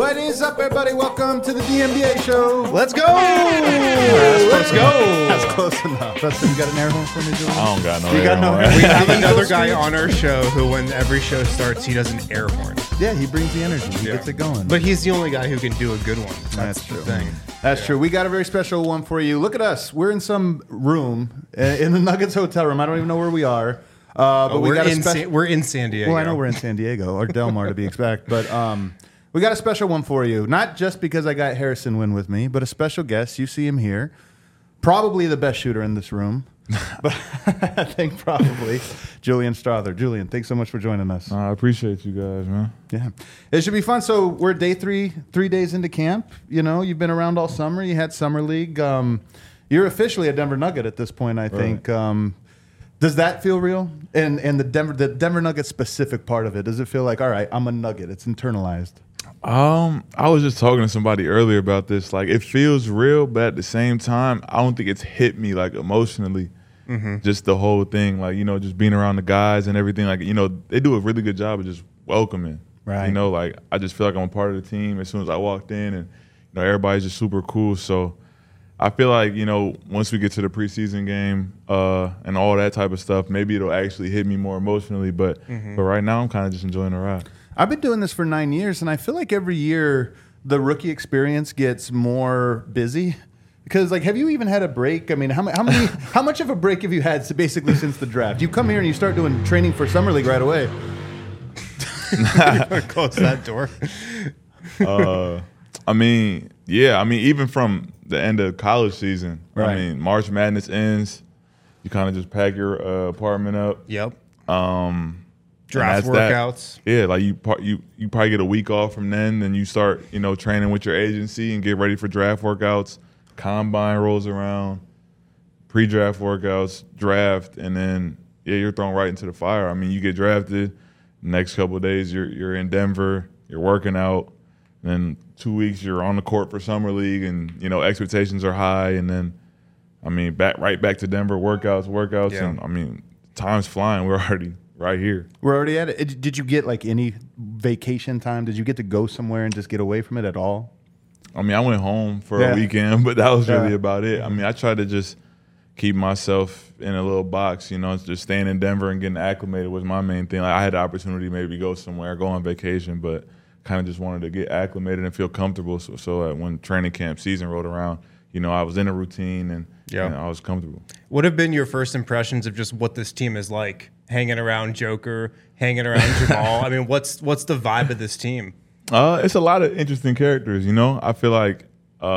What is up, everybody? Welcome to the DMBA show. Let's go! Let's go. That's close enough. Dustin, you got an air horn for me, Julian? I don't got no You air got no horn. air We have Eagle another guy speech? on our show who, when every show starts, he does an air horn. Yeah, he brings the energy. He gets it going. But he's the only guy who can do a good one. That's the true. thing. That's true. We got a very special one for you. Look at us. We're in some room in the Nuggets hotel room. I don't even know where we are. But we got a special. We're in San Diego. Well, I know we're in San Diego or Del Mar to be exact, but we got a special one for you. Not just because I got Harrison Wynn with me, but a special guest. You see him here, probably the best shooter in this room. But I think probably Julian Strother. Julian, thanks so much for joining us. I appreciate you guys, man. Yeah, it should be fun. So we're day 3 days into camp. You know, you've been around all summer. You had summer league. You're officially a Denver Nugget at this point, I think. Does that feel real? And the Denver Nuggets specific part of it, does it feel like, all right, I'm a Nugget? It's internalized. I was just talking to somebody earlier about this. Like, it feels real, but at the same time, I don't think it's hit me like emotionally. Just the whole thing, like, you know, just being around the guys and everything. Like, you know, they do a really good job of just welcoming. Right. You know, like, I just feel like I'm a part of the team as soon as I walked in, and you know, everybody's just super cool. So I feel like, you know, once we get to the preseason game and all that type of stuff, maybe it'll actually hit me more emotionally. But right now, I'm kind of just enjoying the ride. I've been doing this for 9 years, and I feel like every year the rookie experience gets more busy. Because, like, have you even had a break? I mean, how much of a break have you had basically since the draft? You come here and you start doing training for Summer League right away. Close that door. I mean, yeah. I mean, even from the end of college season, Right. I mean, March Madness ends. You kind of just pack your apartment up. Yep. that's Draft that. workouts. Yeah, like you probably get a week off from then you start, you know, training with your agency and get ready for draft workouts. Combine rolls around, pre-draft workouts, draft, and then you're thrown right into the fire. I mean, you get drafted. Next couple of days, you're in Denver. You're working out. Then 2 weeks, you're on the court for Summer League, and you know expectations are high. And then, I mean, right back to Denver, workouts, Yeah. and I mean, time's flying. We're already right here. We're already at it. Did you get, like, any vacation time? Did you get to go somewhere and just get away from it at all? I mean, I went home for Yeah. a weekend, but that was really Yeah. about it. I mean, I tried to just keep myself in a little box, you know, just staying in Denver and getting acclimated was my main thing. Like, I had the opportunity maybe to go somewhere, go on vacation, but kind of just wanted to get acclimated and feel comfortable. So when training camp season rolled around, you know, I was in a routine and Yeah. you know, I was comfortable. What have been your first impressions of just what this team is like? Hanging around Joker, hanging around Jamal. I mean, what's the vibe of this team? It's a lot of interesting characters, you know. I feel like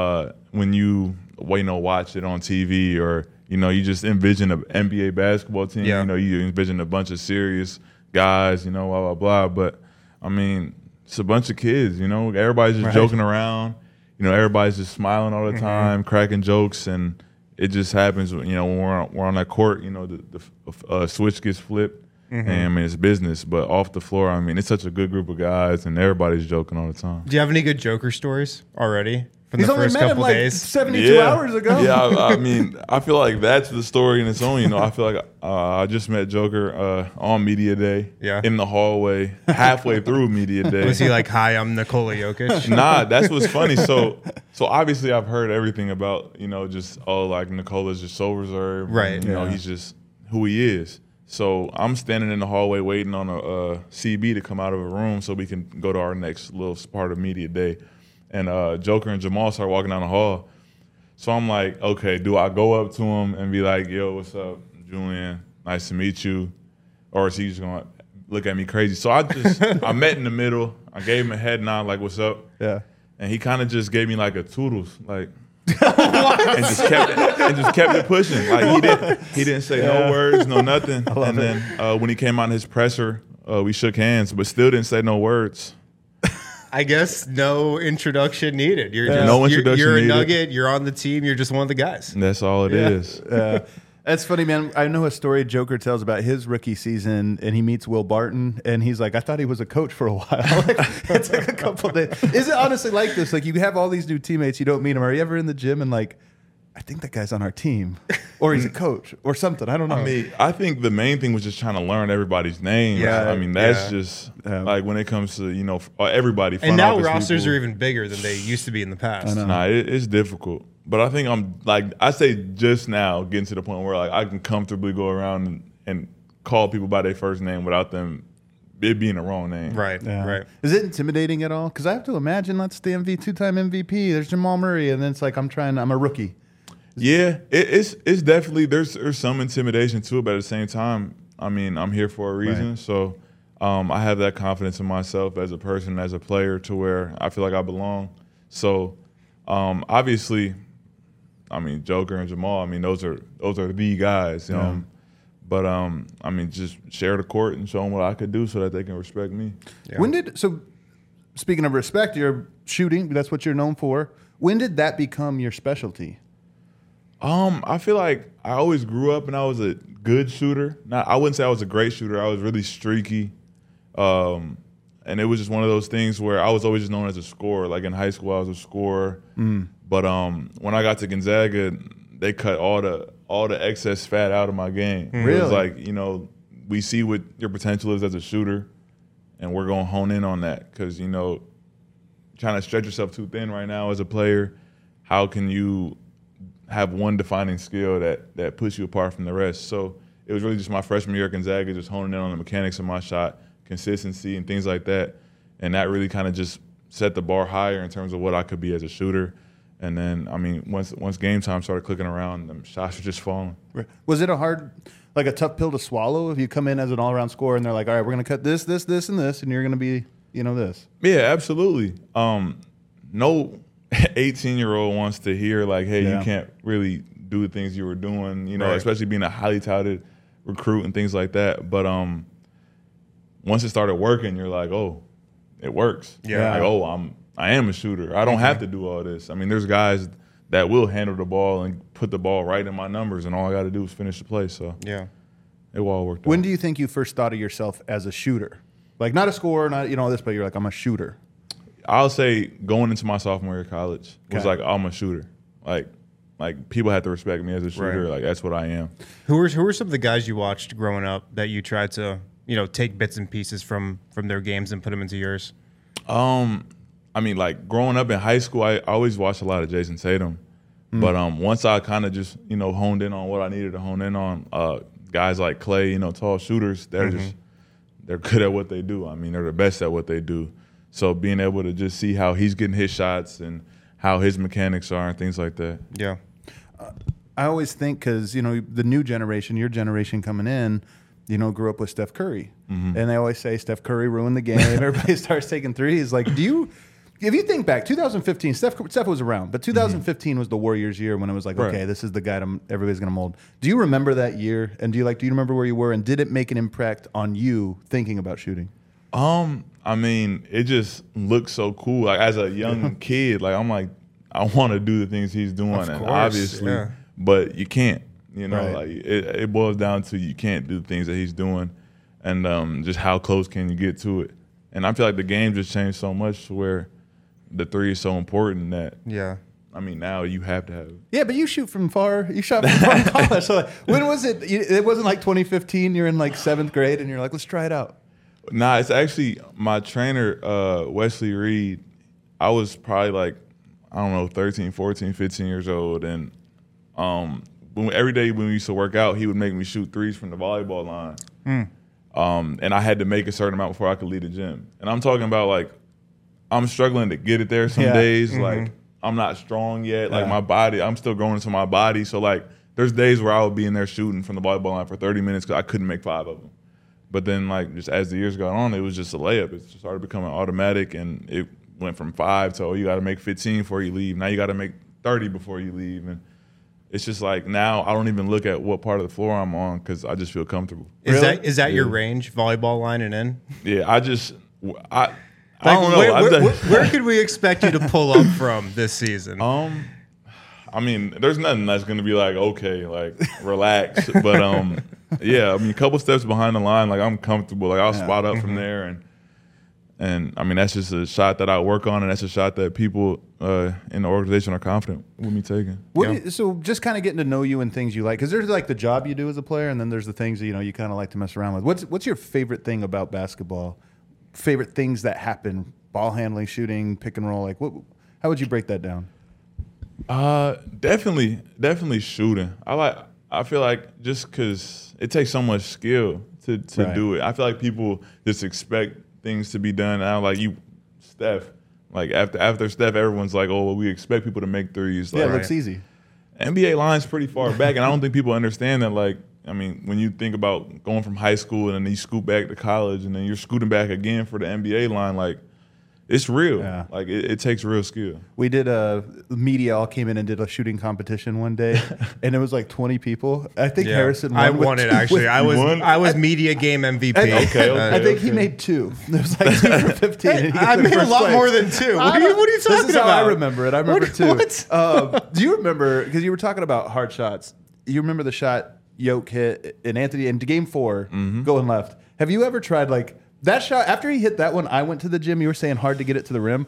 when you watch it on TV or you know you just envision an NBA basketball team. Yeah. You know, you envision a bunch of serious guys, you know, blah blah blah. But I mean, it's a bunch of kids, you know. Everybody's just joking around. You know, everybody's just smiling all the time, cracking jokes, and it just happens. You know, when we're on that court, you know, the switch gets flipped. And I mean, it's business, but off the floor, I mean, it's such a good group of guys, and everybody's joking all the time. Do you have any good Joker stories already from He's the only first met him couple like days? 72 hours ago. Yeah, I mean, I feel like that's the story in its own. You know, I feel like I just met Joker on Media Day in the hallway, halfway through Media Day. Was he like, "Hi, I'm Nikola Jokic"? Nah, that's what's funny. So obviously I've heard everything about, you know, just, like Nikola's just so reserved. Right. And, you know, he's just who he is. So I'm standing in the hallway waiting on a CB to come out of a room so we can go to our next little part of Media Day. And Joker and Jamal start walking down the hall. So I'm like, okay, do I go up to him and be like, yo, what's up, Julian? Nice to meet you. Or is he just going to look at me crazy? So I met in the middle. I gave him a head nod, like, what's up? Yeah. And he kind of just gave me like a toodles, like, and just kept it pushing. Like he didn't say no words, no nothing. And then when he came out in his presser, we shook hands, but still didn't say no words. I guess no introduction needed. You're just, No introduction you're a needed. Nugget. You're on the team. You're just one of the guys. And that's all it is. That's funny, man. I know a story Joker tells about his rookie season, and he meets Will Barton, and he's like, I thought he was a coach for a while. Like, it's like a couple days. Is it honestly like this? Like, you have all these new teammates, you don't meet them. Are you ever in the gym and like, I think that guy's on our team? or he's a coach or something. I don't know. I mean, I think the main thing was just trying to learn everybody's names. Yeah, I mean, that's yeah. just like when it comes to everybody. And now office rosters people, are even bigger than they used to be in the past. I know. Nah, it's difficult. But I think I say just now getting to the point where like I can comfortably go around and call people by their first name without them it being the wrong name. Right, Yeah. right. Is it intimidating at all? Because I have to imagine that's the two-time MVP. There's Jamal Murray, and then it's like I'm a rookie. Yeah, it's definitely there's some intimidation to it, but at the same time, I mean, I'm here for a reason. Right. So I have that confidence in myself as a person, as a player, to where I feel like I belong. So obviously, I mean, Joker and Jamal, I mean, those are the guys. Yeah. But I mean, just share the court and show them what I could do so that they can respect me. Yeah. Speaking of respect, you're shooting. That's what you're known for. When did that become your specialty? I feel like I always grew up and I was a good shooter. I wouldn't say I was a great shooter. I was really streaky. And it was just one of those things where I was always just known as a scorer. Like in high school, I was a scorer. But when I got to Gonzaga, they cut all the excess fat out of my game. Really? It was like, we see what your potential is as a shooter, and we're going to hone in on that because, trying to stretch yourself too thin right now as a player, how can you have one defining skill that puts you apart from the rest? So it was really just my freshman year at Gonzaga, just honing in on the mechanics of my shot, consistency and things like that. And that really kind of just set the bar higher in terms of what I could be as a shooter. And then, I mean, once game time started clicking around, the shots were just falling. Was it a tough pill to swallow if you come in as an all-around scorer and they're like, all right, we're going to cut this, this, this, and this, and you're going to be, this? Yeah, absolutely. No 18-year-old wants to hear like, hey, you can't really do the things you were doing, Right. especially being a highly touted recruit and things like that. But once it started working, you're like, oh, it works. Yeah. Like, oh, I am a shooter. I don't have to do all this. I mean, there's guys that will handle the ball and put the ball right in my numbers, and all I got to do is finish the play. So Yeah. it all worked out. When do you think you first thought of yourself as a shooter? Like not a scorer, not this, but you're like, I'm a shooter. I'll say going into my sophomore year of college was Okay. like, I'm a shooter. Like people had to respect me as a shooter. Right. Like that's what I am. Who were some of the guys you watched growing up that you tried to, take bits and pieces from their games and put them into yours? I mean, like growing up in high school, I always watched a lot of Jason Tatum. But once I kind of just, honed in on what I needed to hone in on, guys like Clay, tall shooters, they're good at what they do. I mean, they're the best at what they do. So being able to just see how he's getting his shots and how his mechanics are and things like that. Yeah. I always think because, the new generation, your generation coming in, grew up with Steph Curry. And they always say Steph Curry ruined the game. Everybody starts taking threes. Like, if you think back, 2015, Steph was around, but 2015 was the Warriors' year when it was like, Right. okay, this is the guy everybody's going to mold. Do you remember that year? And do you remember where you were? And did it make an impact on you thinking about shooting? I mean, it just looks so cool. Like as a young kid, like I'm like, I want to do the things he's doing, Of and course, obviously, yeah. but you can't. Right. Like it boils down to you can't do the things that he's doing, and just how close can you get to it? And I feel like the game just changed so much to where the three is so important that Yeah. I mean now you have to have it. Yeah, but you shoot from far. You shot from far in college. So when was it? It wasn't like 2015. You're in like 7th grade, and you're like, let's try it out. Nah, it's actually my trainer, Wesley Reed. I was probably like, I don't know, 13, 14, 15 years old. And every day when we used to work out, he would make me shoot threes from the volleyball line. And I had to make a certain amount before I could leave the gym. And I'm talking about like, I'm struggling to get it there some Yeah. days. Like, I'm not strong yet. Like, Yeah. my body, I'm still growing into my body. So, like, there's days where I would be in there shooting from the volleyball line for 30 minutes because I couldn't make 5 of them. But then, like, just as the years got on, it was just a layup. It just started becoming automatic, and it went from 5 to, you got to make 15 before you leave. Now you got to make 30 before you leave. And it's just like now I don't even look at what part of the floor I'm on because I just feel comfortable. Is that your range, volleyball line and in? Yeah, I don't know. Where could we expect you to pull up from this season? I mean, there's nothing that's going to be like, okay, like, relax. But, yeah, I mean, a couple steps behind the line, like, I'm comfortable. Like, I'll spot up from there. And And I mean, that's just a shot that I work on, and that's a shot that people in the organization are confident with me taking. So just kind of getting to know you and things you like, because there's like the job you do as a player, and then there's the things that, you kind of like to mess around with. What's your favorite thing about basketball? Favorite things that happen? Ball handling, shooting, pick and roll. Like, how would you break that down? Definitely shooting. I feel like just because it takes so much skill to do it. I feel like people just expect things to be done. I like Steph. Like after Steph, everyone's like, oh, well, we expect people to make threes. Like, Yeah, it looks easy. NBA line's pretty far back, and I don't think people understand that. Like, I mean, when you think about going from high school and then you scoot back to college and then you're scooting back again for the NBA line, like, it's real. Yeah. Like, it takes real skill. We did media all came in and did a shooting competition one day, and it was like 20 people. I think Harrison won. I won it, actually. I was media game MVP. I think he made 2. There was like 2 for 15. And he I took made a first lot place. more than 2. What are you This talking is how about? I remember it. I remember What- 2. what? Do you remember, because you were talking about hard shots, you remember the shot Yoke hit in Anthony into game 4 going left. Have you ever tried like that shot? After he hit that one, I went to the gym. You were saying hard to get it to the rim.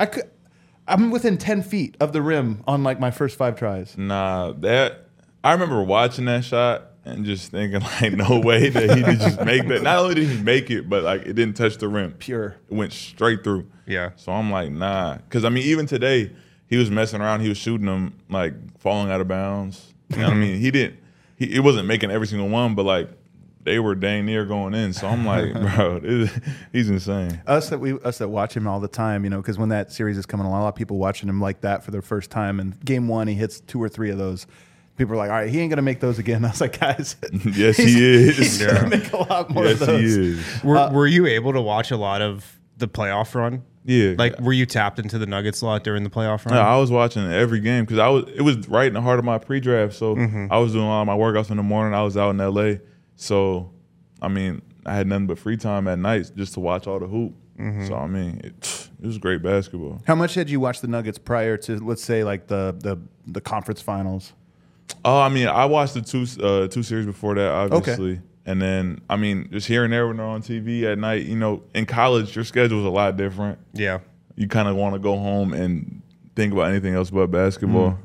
I'm within 10 feet of the rim on like my first 5 tries. Nah, I remember watching that shot and just thinking like, no way that he did just make that. Not only did he make it, but like it didn't touch the rim. Pure. It went straight through. Yeah. So I'm like, nah, because I mean, even today he was messing around. He was shooting them like falling out of bounds. You know what I mean? He wasn't making every single one, but like they were dang near going in. So I'm like, bro, he's insane. Us that watch him all the time, because when that series is coming along, a lot of people watching him like that for their first time. And game 1, he hits 2 or 3 of those. People are like, all right, he ain't gonna make those again. I was like, guys, Yes, he is. He's gonna make a lot more Yes, of those. he is. Were you able to watch a lot of the playoff run? Yeah. Like, were you tapped into the Nuggets a lot during the playoff run? Yeah, I was watching every game because it was right in the heart of my pre-draft. So I was doing a lot of my workouts in the morning. I was out in LA, so I mean, I had nothing but free time at night just to watch all the hoop. So I mean, it was great basketball. How much had you watched the Nuggets prior to, let's say, like the conference finals? Oh, I mean, I watched the two series before that, obviously. Okay. And then, I mean, just here and there when they're on TV at night, in college, your schedule's a lot different. Yeah. You kind of want to go home and think about anything else but basketball.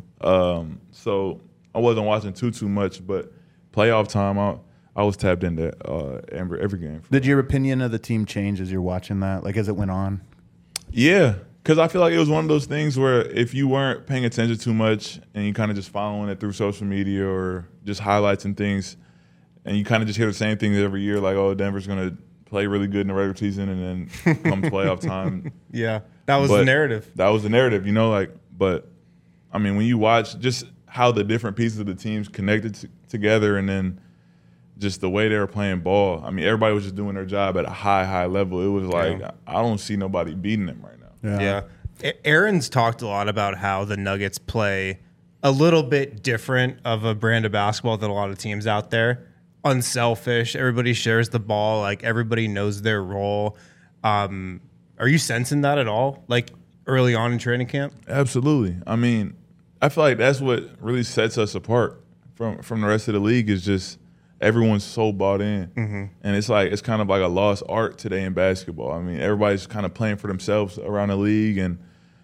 So I wasn't watching too much, but playoff time, I was tapped into every game. Did your opinion of the team change as you're watching that, like as it went on? Yeah, because I feel like it was one of those things where if you weren't paying attention too much and you kind of just following it through social media or just highlights and things, and you kind of just hear the same things every year, like, oh, Denver's going to play really good in the regular season, and then come playoff time. Yeah, that was the narrative. That was the narrative, but I mean, when you watch just how the different pieces of the teams connected together and then just the way they were playing ball, I mean, everybody was just doing their job at a high level. It was like, I don't see nobody beating them right now. Yeah. Aaron's talked a lot about how the Nuggets play a little bit different of a brand of basketball than a lot of teams out there. Unselfish. Everybody shares the ball. Like, everybody knows their role. Are you sensing that at all, like early on in training camp? Absolutely. I mean, I feel like that's what really sets us apart from the rest of the league is just everyone's so bought in. And it's kind of like a lost art today in basketball. I mean, everybody's kind of playing for themselves around the league. And,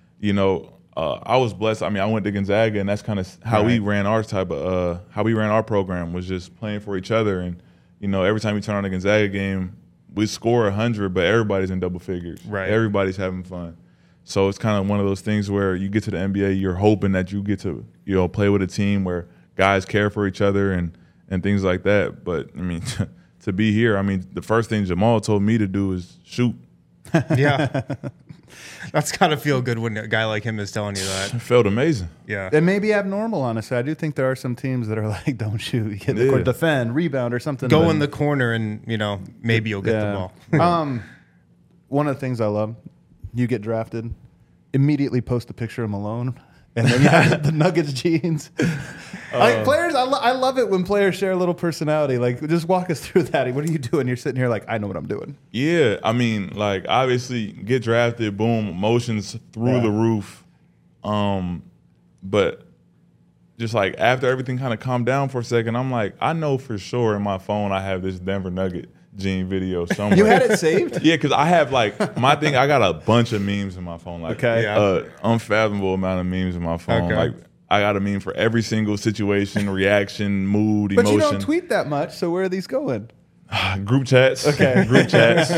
I was blessed. I mean, I went to Gonzaga, and that's kind of how we ran our how we ran our program was just playing for each other. And, every time we turn on a Gonzaga game, we score 100, but everybody's in double figures. Right. Everybody's having fun. So it's kind of one of those things where you get to the NBA, you're hoping that you get to, play with a team where guys care for each other and things like that. But, I mean, to be here, I mean, the first thing Jamal told me to do is shoot. Yeah. That's got to feel good when a guy like him is telling you that. It felt amazing. Yeah. It may be abnormal, honestly. I do think there are some teams that are like, don't shoot, get in the court, defend, rebound, or something. Go in the corner and, maybe you'll get the ball. One of the things I love, you get drafted, immediately post a picture of Malone, and then you have the Nuggets jeans. Players, I love it when players share a little personality. Like, just walk us through that. What are you doing? You're sitting here like, I know what I'm doing. Yeah, I mean, like, obviously, get drafted, boom, emotions through the roof. But just like after everything kind of calmed down for a second, I'm like, I know for sure in my phone I have this Denver Nugget Gene video somewhere. You had it saved? Yeah, because I have like my thing. I got a bunch of memes in my phone. Like, Okay. Yeah. unfathomable amount of memes in my phone. Okay. Like, I got a meme for every single situation, reaction, mood, But emotion. you don't tweet that much, so where are these going? Group chats. Okay. Group chats.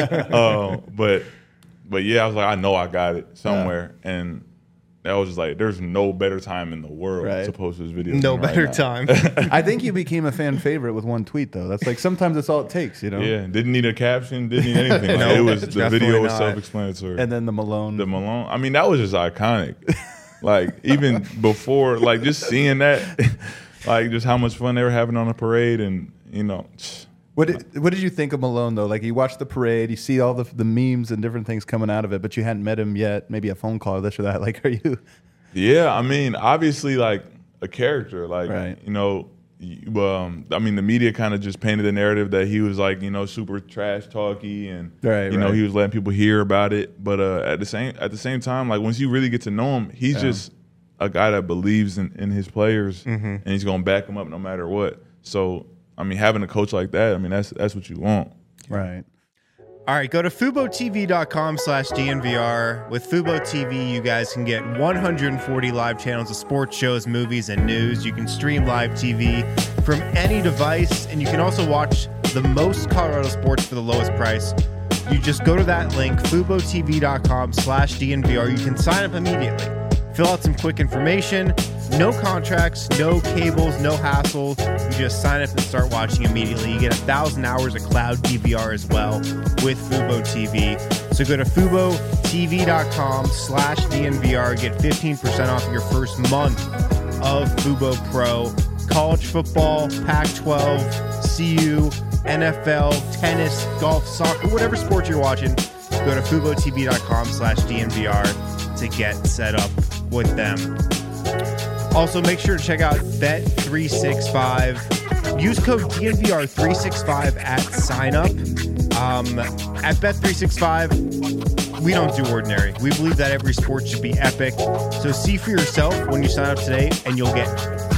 But yeah, I was like, I know I got it somewhere, and that was just like, there's no better time in the world Right. to post this video. No than right better now. time. I think you became a fan favorite with one tweet, though. That's like sometimes that's all it takes, you know? Yeah, didn't need a caption, didn't need anything. Like, No, it was the definitely video was not. self-explanatory. And then the Malone. The Malone. I mean, that was just iconic. Like even before, like just seeing that, like just how much fun they were having on the parade, and you know, What did you think of Malone, though? Like, you watch the parade, you see all the memes and different things coming out of it, but you hadn't met him yet, maybe a phone call, this or that. Like, are you? yeah. I mean, obviously, like a character, like Right. you know. I mean, the media kind of just painted the narrative that he was like, you know, super trash talky, and Right, you know, right. he was letting people hear about it. But at the same time, like once you really get to know him, he's just a guy that believes in his players, and he's gonna back them up no matter what. So, I mean, having a coach like that, I mean, that's what you want. Right. All right, go to FuboTV.com/DNVR. With Fubo TV, you guys can get 140 live channels of sports shows, movies, and news. You can stream live TV from any device, and you can also watch the most Colorado sports for the lowest price. You just go to that link, FuboTV.com/DNVR. You can sign up immediately. Fill out some quick information. No contracts, no cables, no hassle. You just sign up and start watching immediately. You get 1,000 hours of cloud DVR as well with Fubo TV. So go to FuboTV.com/DNVR. Get 15% off your first month of Fubo Pro. College football, Pac-12, CU, NFL, tennis, golf, soccer, whatever sport you're watching, go to FuboTV.com/DNVR to get set up with them. Also, make sure to check out Bet365. Use code DNVR365 at sign up. At Bet365, we don't do ordinary. We believe that every sport should be epic. So see for yourself when you sign up today, and you'll get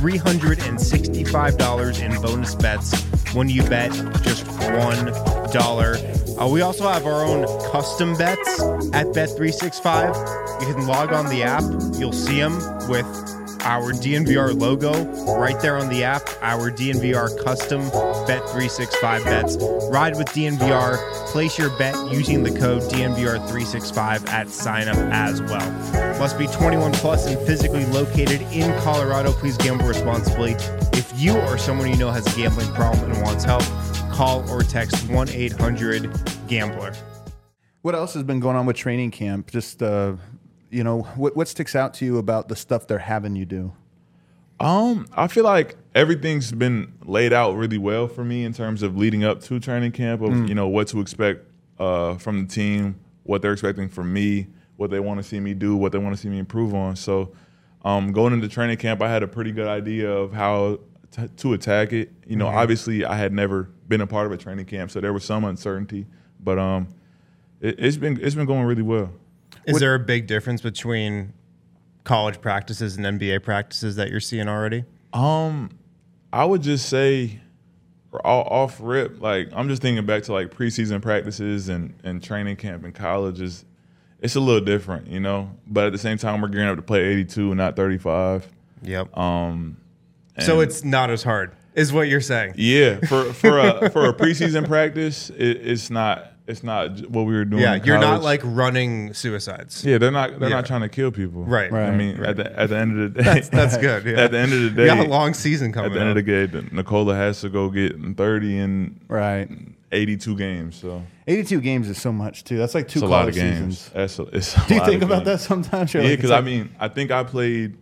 $365 in bonus bets when you bet just $1. We also have our own custom bets at Bet365. You can log on the app. You'll see them with our DNVR logo right there on the app. Our DNVR custom Bet365 bets. Ride with DNVR. Place your bet using the code DNVR365 at sign up as well. Must be 21 plus and physically located in Colorado. Please gamble responsibly. If you or someone you know has a gambling problem and wants help, call or text 1-800-GAMBLER. What else has been going on with training camp? Just, you know, what sticks out to you about the stuff they're having you do? I feel like everything's been laid out really well for me in terms of leading up to training camp of, you know, what to expect from the team, what they're expecting from me, what they want to see me do, what they want to see me improve on. So going into training camp, I had a pretty good idea of how to attack it. You know, obviously I had never been a part of a training camp, so there was some uncertainty, but it's been going really well. Is there a big difference between college practices and NBA practices that you're seeing already? I would just say off rip, like I'm just thinking back to like preseason practices and training camp in college it's a little different, you know. But at the same time, we're gearing up to play 82 and not 35. Yep. And So it's not as hard, is what you're saying. yeah, for a preseason practice, it's not what we were doing. Yeah, in you're not college. like running suicides. Yeah, they're not trying to kill people. Right. I mean, Right. at the end of the day, That's good. Yeah. At the end of the day, You got a long season coming at the end up. of the day, Nikola has to go get 30 in Right. 82 games. So 82 games is so much, too. That's like two it's a lot college of games. seasons. It's a Do you lot think of about games. that sometimes? You're Yeah, like, because it's I like- mean, I think I played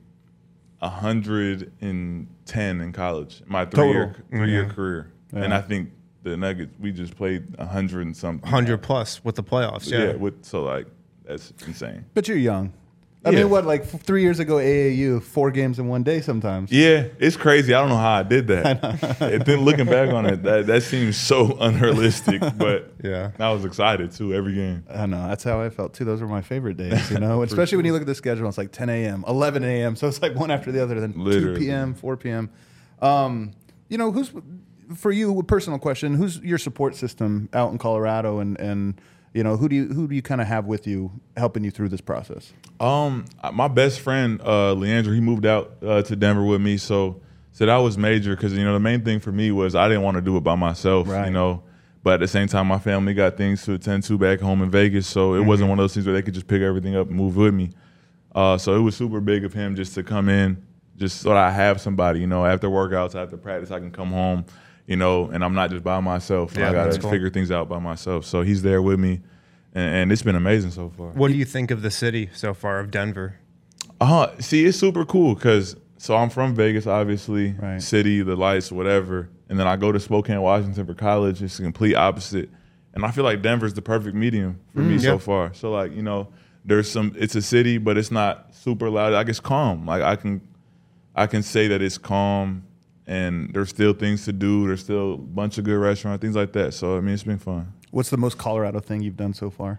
110 in college, my Total. three-year career, and Yeah. I think the Nuggets we just played 100 and something. 100 plus with the playoffs. Yeah. So like that's insane. But you're young. I Yeah. mean, what, like 3 years ago, AAU, 4 games in one day sometimes. Yeah, it's crazy. I don't know how I did that. And then looking back on it, that seems so unrealistic. But Yeah. I was excited too every game. I know. That's how I felt, too. Those were my favorite days, you know, especially when you look at the schedule. It's like 10 a.m., 11 a.m. So it's like one after the other, then 2 Literally. p.m., 4 p.m. You know, for you, a personal question: who's your support system out in Colorado, and who do you kind of have with you helping you through this process? My best friend Leandro, he moved out to Denver with me, so that was major because the main thing for me was I didn't want to do it by myself, right. But at the same time, my family got things to attend to back home in Vegas, so it wasn't one of those things where they could just pick everything up and move with me. So it was super big of him just to come in, just so that I have somebody, after workouts, after practice, I can come home, and I'm not just by myself. I got to figure things out by myself. So he's there with me, and it's been amazing so far. What do you think of the city so far, of Denver? See, it's super cool because I'm from Vegas, obviously, right. City, the lights, whatever. And then I go to Spokane, Washington for college. It's the complete opposite. And I feel like Denver's the perfect medium for me so far. So, it's a city, but it's not super loud. Like, it's calm. Like, I can say that it's calm, and there's still things to do. There's still a bunch of good restaurants, things like that. So, it's been fun. What's the most Colorado thing you've done so far?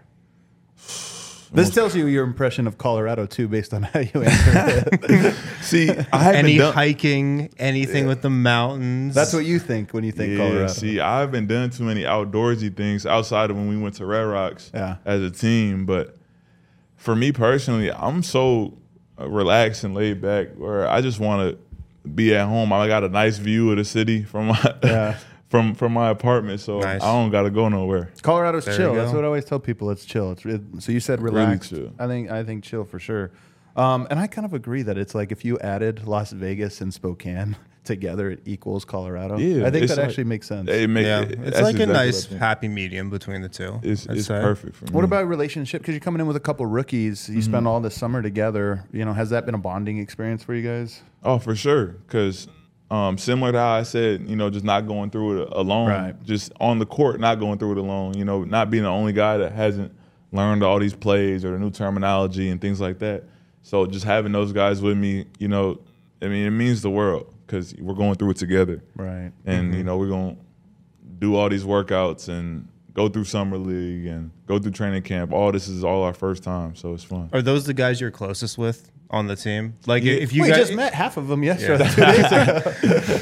This tells you your impression of Colorado, too, based on how you answer it. See, I haven't done hiking, anything with the mountains. That's what you think when you think Colorado. See, I haven't done too many outdoorsy things outside of when we went to Red Rocks as a team. But for me personally, I'm so relaxed and laid back where I just want to be at home. I got a nice view of the city from my from my apartment, so nice. I don't got to go nowhere. Colorado's chill. That's what I always tell people. It's chill. So you said relaxed. Really chill. I think chill for sure. And I kind of agree that it's like if you added Las Vegas and Spokane together, it equals Colorado. Yeah, I think that actually makes sense. It's like a nice happy medium between the two. It's perfect for me. What about relationship? Because you're coming in with a couple rookies. You spend all the summer together. Has that been a bonding experience for you guys? Oh, for sure. Because similar to how I said, just not going through it alone. Right. Just on the court, not going through it alone. Not being the only guy that hasn't learned all these plays or the new terminology and things like that. So just having those guys with me, it means the world because we're going through it together. Right. And, we're going to do all these workouts and go through summer league and go through training camp. All this is all our first time, so it's fun. Are those the guys you're closest with on the team? Like if you guys just met half of them yesterday. 2 days ago.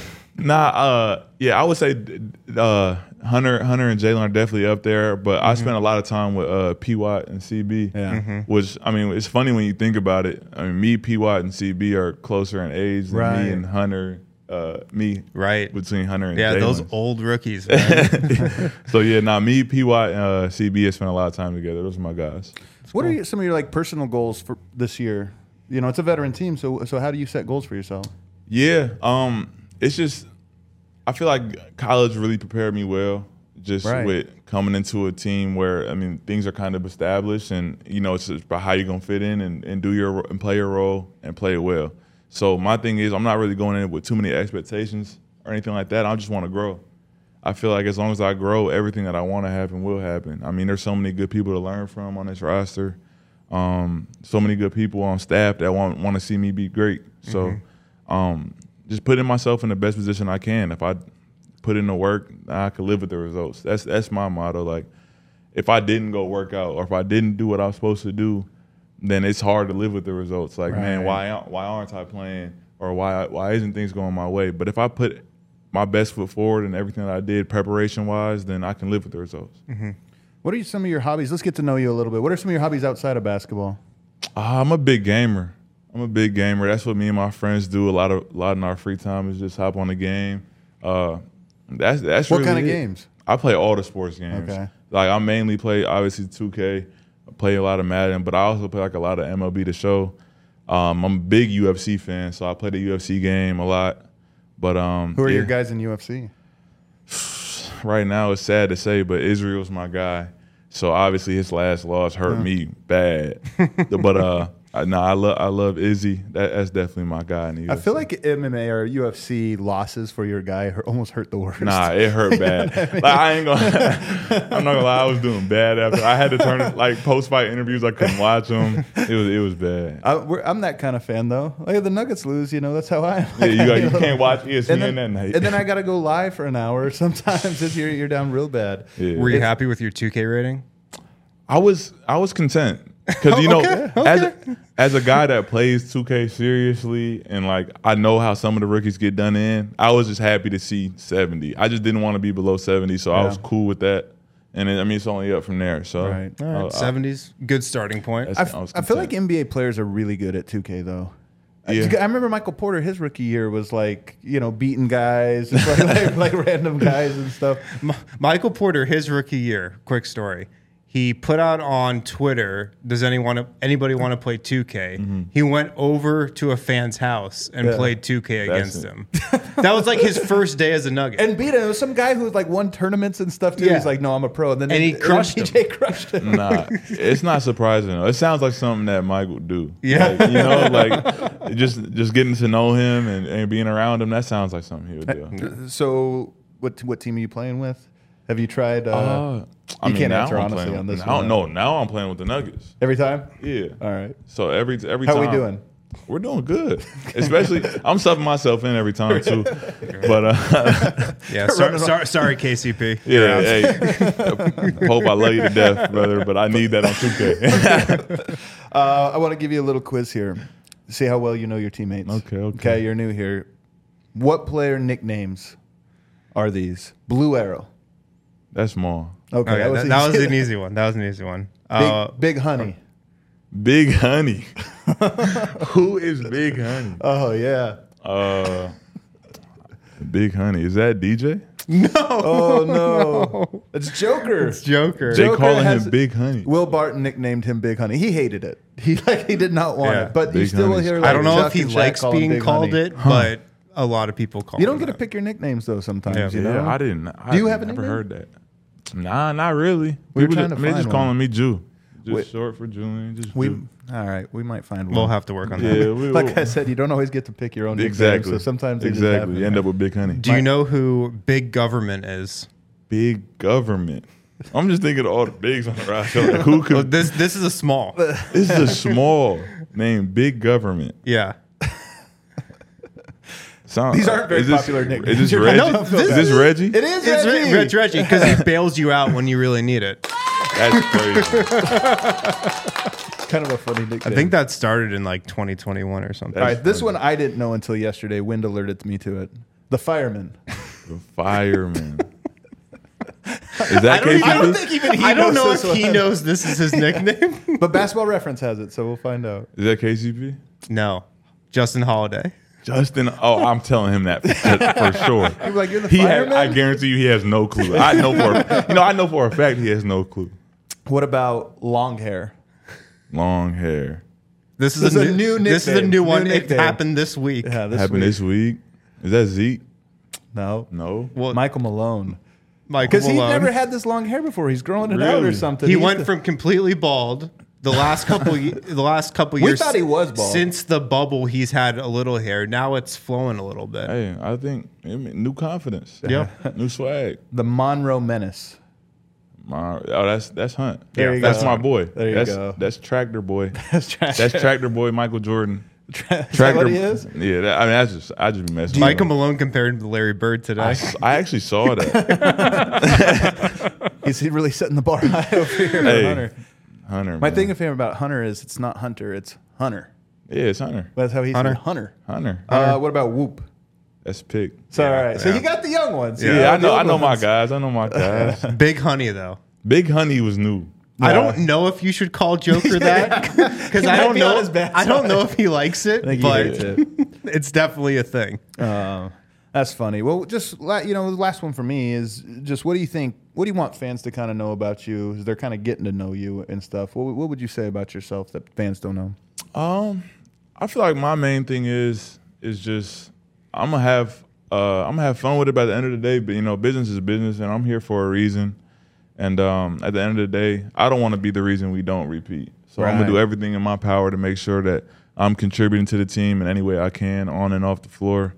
I would say Hunter and Jalen are definitely up there, but I spent a lot of time with P. Watt and CB, which, it's funny when you think about it. Me, P. Watt, and CB are closer in age than me and Hunter, between Hunter and Jalen. Those old rookies, man. So, me, P. Watt, and CB have spent a lot of time together. Those are my guys. What are some of your personal goals for this year? It's a veteran team, so how do you set goals for yourself? It's just, I feel like college really prepared me well just with coming into a team where, things are kind of established and, it's just about how you're going to fit in and do and play your role and play it well. So my thing is I'm not really going in with too many expectations or anything like that. I just want to grow. I feel like as long as I grow, everything that I want to happen will happen. There's so many good people to learn from on this roster. So many good people on staff that want to see me be great. So, just putting myself in the best position I can. If I put in the work, I can live with the results. That's my motto. Like, if I didn't go work out or if I didn't do what I was supposed to do, then it's hard to live with the results. Like, man, why aren't I playing? Or why isn't things going my way? But if I put my best foot forward in everything that I did preparation-wise, then I can live with the results. What are some of your hobbies? Let's get to know you a little bit. What are some of your hobbies outside of basketball? I'm a big gamer. That's what me and my friends do a lot in our free time is just hop on the game. That's what really kind of games? I play all the sports games. Okay. Like I mainly play obviously 2K. I play a lot of Madden, but I also play a lot of MLB The Show. I'm a big UFC fan, so I play the UFC game a lot. But who are your guys in UFC? Right now, it's sad to say, but Israel's my guy. So obviously, his last loss hurt me bad. But I love Izzy. That's definitely my guy in the UFC. I feel like MMA or UFC losses for your guy almost hurt the worst. Nah, it hurt bad. I'm not gonna lie, I was doing bad after. I had to turn it post fight interviews. I couldn't watch them. It was bad. I'm that kind of fan though. Like the Nuggets lose, that's how I am. Yeah, you can't watch ESPN that night. And then I gotta go live for an hour. Sometimes if you're down real bad. Yeah. Were you happy with your 2K rating? I was content. Because you know, Okay. as a guy that plays 2K seriously, and like I know how some of the rookies get done in, I was just happy to see 70. I just didn't want to be below 70, so I was cool with that. And I mean, it's only up from there. So Right. All right, 70s, good starting point. I feel like NBA players are really good at 2K though. Yeah. I remember Michael Porter, his rookie year was like, beating guys, just like random guys and stuff. Michael Porter, his rookie year, quick story. He put out on Twitter, does anybody want to play 2K? He went over to a fan's house and played 2K against him. That was like his first day as a Nugget. And beat him. It was some guy who like won tournaments and stuff too. Yeah. He's like, no, I'm a pro. And then he crushed him. DJ crushed him. Nah, it's not surprising though. It sounds like something that Mike would do. Yeah. Like just getting to know him and being around him. That sounds like something he would do. So what team are you playing with? Have you tried? I mean, can't now answer I'm honestly playing on with- this now- one. No, now I'm playing with the Nuggets. Every time? Yeah. All right. So every How time. we doing? We're doing good. Especially, I'm subbing myself in every time too. But Yeah, sorry, KCP. yeah, hey, Pope, I love you to death, brother. But I need that on 2K. I want to give you a little quiz here. See how well you know your teammates. Okay. You're new here. What player nicknames are these? Blue Arrow. That's small. Okay, Okay, that was easy. an easy one. That was an easy one. Big Honey. Big Honey. Who is Big Honey? Oh yeah. Big Honey. Is that DJ? Oh no. It's Joker. It's Joker. They Joker calling has- him Big Honey. Will Barton nicknamed him Big Honey. He hated it. He did not want Yeah. it. But you Big still will Honey's hear. cool. Like, I don't know Chuck if he and Shaq likes call him being Big called Honey. it, but a lot of people call You don't him get to that. pick your nicknames though. Sometimes Yeah. you know. Yeah, I didn't. Do you have a never nickname? heard that. Nah, not really. We were People trying just, to they find just one. calling me Jew. Just Wait. short for Julian. Just We Jew. all right. We might find one. We'll have to work on Yeah, that. Like I said, you don't always get to pick your own nicknames, exactly. So sometimes they just exactly. happen. You end up with Big Honey. Do you know who Big Government is? Big government. I'm just thinking of all the bigs on the roster. Like, who Well, could? this is a small. This is a small name. Big government. Yeah. These aren't very is this- popular nicknames. Is this You're Reggie? not- Is this Reggie? It is It's Reggie. Reggie because he bails you out when you really need it. That's crazy. Kind of a funny nickname. I think that started in like 2021 or something. All right, this one I didn't know until yesterday. Wind alerted me to it. The Fireman. The fireman. Is that KCP? I don't think even he I don't knows know this if he one. knows this is his nickname. But Basketball Reference has it, so we'll find out. Is that KCP? No, Justin Holiday. Justin, I'm telling him that for sure. You're like, you're the He fireman? I guarantee you, he has no clue. I know for a fact he has no clue. What about long hair? Long hair. This is This a is a new. new This is a nickname. new New one. It nickname. happened this week. Yeah, this Happened week. this week. Is that Zeke? No. No. Well, Michael Malone. Michael Because he Malone. never had this long hair before. He's growing it out or Really? something. He He's went the- from completely bald. The last couple years. thought he was bald. Since the bubble. He's had a little hair. Now it's flowing a little bit. Hey, I think new confidence. Yeah. New swag. the Monroe Menace. That's Hunt. There you That's go. my boy. There you that's, go. That's Tractor Boy. That's That's Tractor Boy Michael Jordan. Is that what he is? Yeah, I just be messing. Michael with him. Malone compared him to Larry Bird today. I actually saw that. He's really setting the bar high over here for Hey, Hunter. Hunter. My man. thing of him about Hunter is it's not Hunter, it's Hunter. Yeah, it's Hunter. That's how he Hunter. said Hunter. Hunter. What about Whoop? That's Pick. So, all right. So yeah. you got the young ones. Yeah, You got the I old know my ones. guys. I know my guys. Big Honey though. Big Honey was new. I don't know if you should call Joker that because I might don't be know. on his bad I don't side. know if he likes it, I think he but hates it. it's definitely a thing. That's funny. Well, just the last one for me is just what do you think? What do you want fans to kind of know about you as they're kind of getting to know you and stuff? What would you say about yourself that fans don't know? I feel like my main thing is just I'm gonna have fun with it by the end of the day. But business is business, and I'm here for a reason. And at the end of the day, I don't want to be the reason we don't repeat. So I'm gonna do Right. everything in my power to make sure that I'm contributing to the team in any way I can, on and off the floor.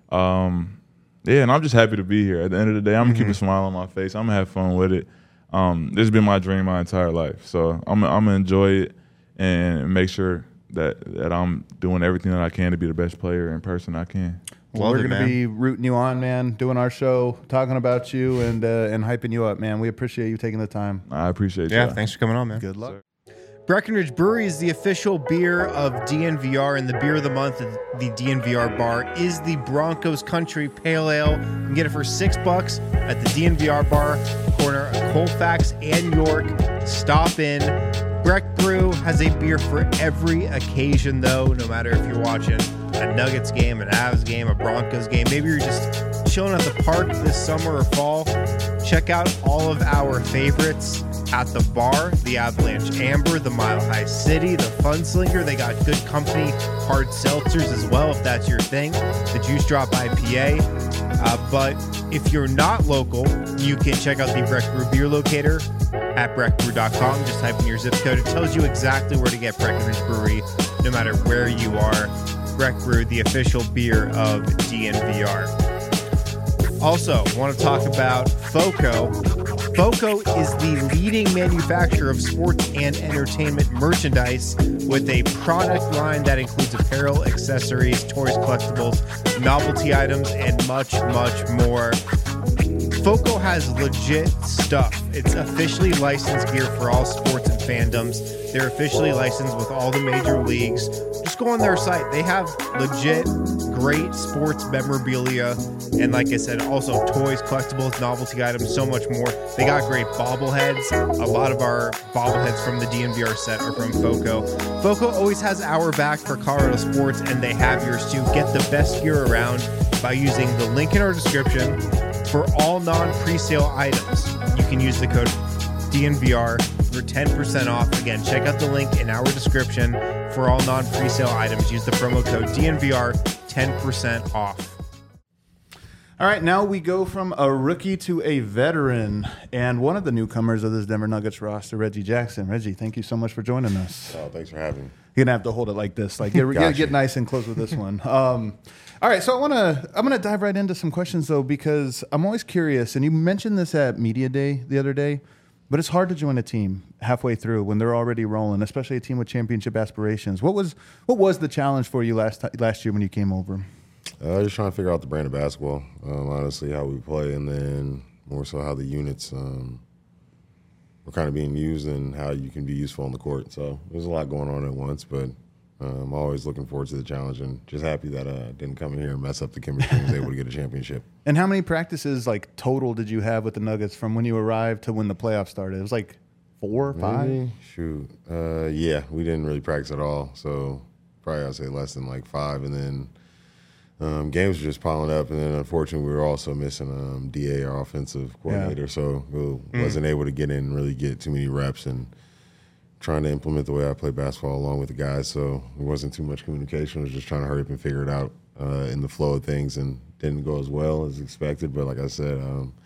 Yeah, and I'm just happy to be here. At the end of the day, I'm gonna keep a smile on my face. I'm gonna have fun with it. This has been my dream my entire life, so I'm gonna enjoy it and make sure that I'm doing everything that I can to be the best player and person I can. Well, Love we're it, going to man. be rooting you on, man, doing our show, talking about you, and hyping you up, man. We appreciate you taking the time. I appreciate Yeah, you. thanks for coming on, man. Good luck. Breckenridge Brewery is the official beer of DNVR, and the beer of the month at the DNVR bar is the Broncos Country Pale Ale. You can get it for $6 at the DNVR bar, corner of Colfax and York. Stop in. Breck Brew has a beer for every occasion, though, no matter if you're watching a Nuggets game, an Avs game, a Broncos game. Maybe you're just chilling at the park this summer or fall. Check out all of our favorites at the bar: the Avalanche Amber, the Mile High City, the Funslinger. They got Good Company hard seltzers as well, if that's your thing. The Juice Drop IPA. But if you're not local, you can check out the Breck Brew Beer Locator at breckbrew.com. Just type in your zip code. It tells you exactly where to get Breckenridge Brewery, no matter where you are. Breck Brew, the official beer of DNVR. Also, want to talk about FOCO. FOCO is the leading manufacturer of sports and entertainment merchandise with a product line that includes apparel, accessories, toys, collectibles, novelty items, and much, much more. FOCO has legit stuff. It's officially licensed gear for all sports and fandoms. They're officially licensed with all the major leagues. Just go on their site. They have legit great sports memorabilia. And like I said, also toys, collectibles, novelty items, so much more. They got great bobbleheads. A lot of our bobbleheads from the DNVR set are from FOCO. FOCO always has our back for Colorado sports, and they have yours too. Get the best gear around by using the link in our description. For all non-presale items, you can use the code DNVR for 10% off. Again, check out the link in our description. For all non-presale items, use the promo code DNVR, 10% off. All right, now we go from a rookie to a veteran, and one of the newcomers of this Denver Nuggets roster, Reggie Jackson. Reggie, thank you so much for joining us. Oh, thanks for having me. You're gonna have to hold it like this, like get nice and close with this one. All right, so I'm gonna dive right into some questions though, because I'm always curious, and you mentioned this at Media Day the other day, but it's hard to join a team halfway through when they're already rolling, especially a team with championship aspirations. What was the challenge for you last year when you came over? Just trying to figure out the brand of basketball, honestly, how we play, and then more so how the units were kind of being used and how you can be useful on the court. So there's a lot going on at once, but I'm always looking forward to the challenge and just happy that I didn't come in here and mess up the chemistry and was able to get a championship. And how many practices, like, total did you have with the Nuggets from when you arrived to when the playoffs started? It was like 4 or 5? Maybe? Shoot. Yeah, we didn't really practice at all. So probably I'd say less than like 5. And then games were just piling up. And then unfortunately we were also missing DA, our offensive coordinator. Yeah. So we wasn't able to get in and really get too many reps and trying to implement the way I play basketball along with the guys. So it wasn't too much communication. I was just trying to hurry up and figure it out in the flow of things, and didn't go as well as expected. But like I said,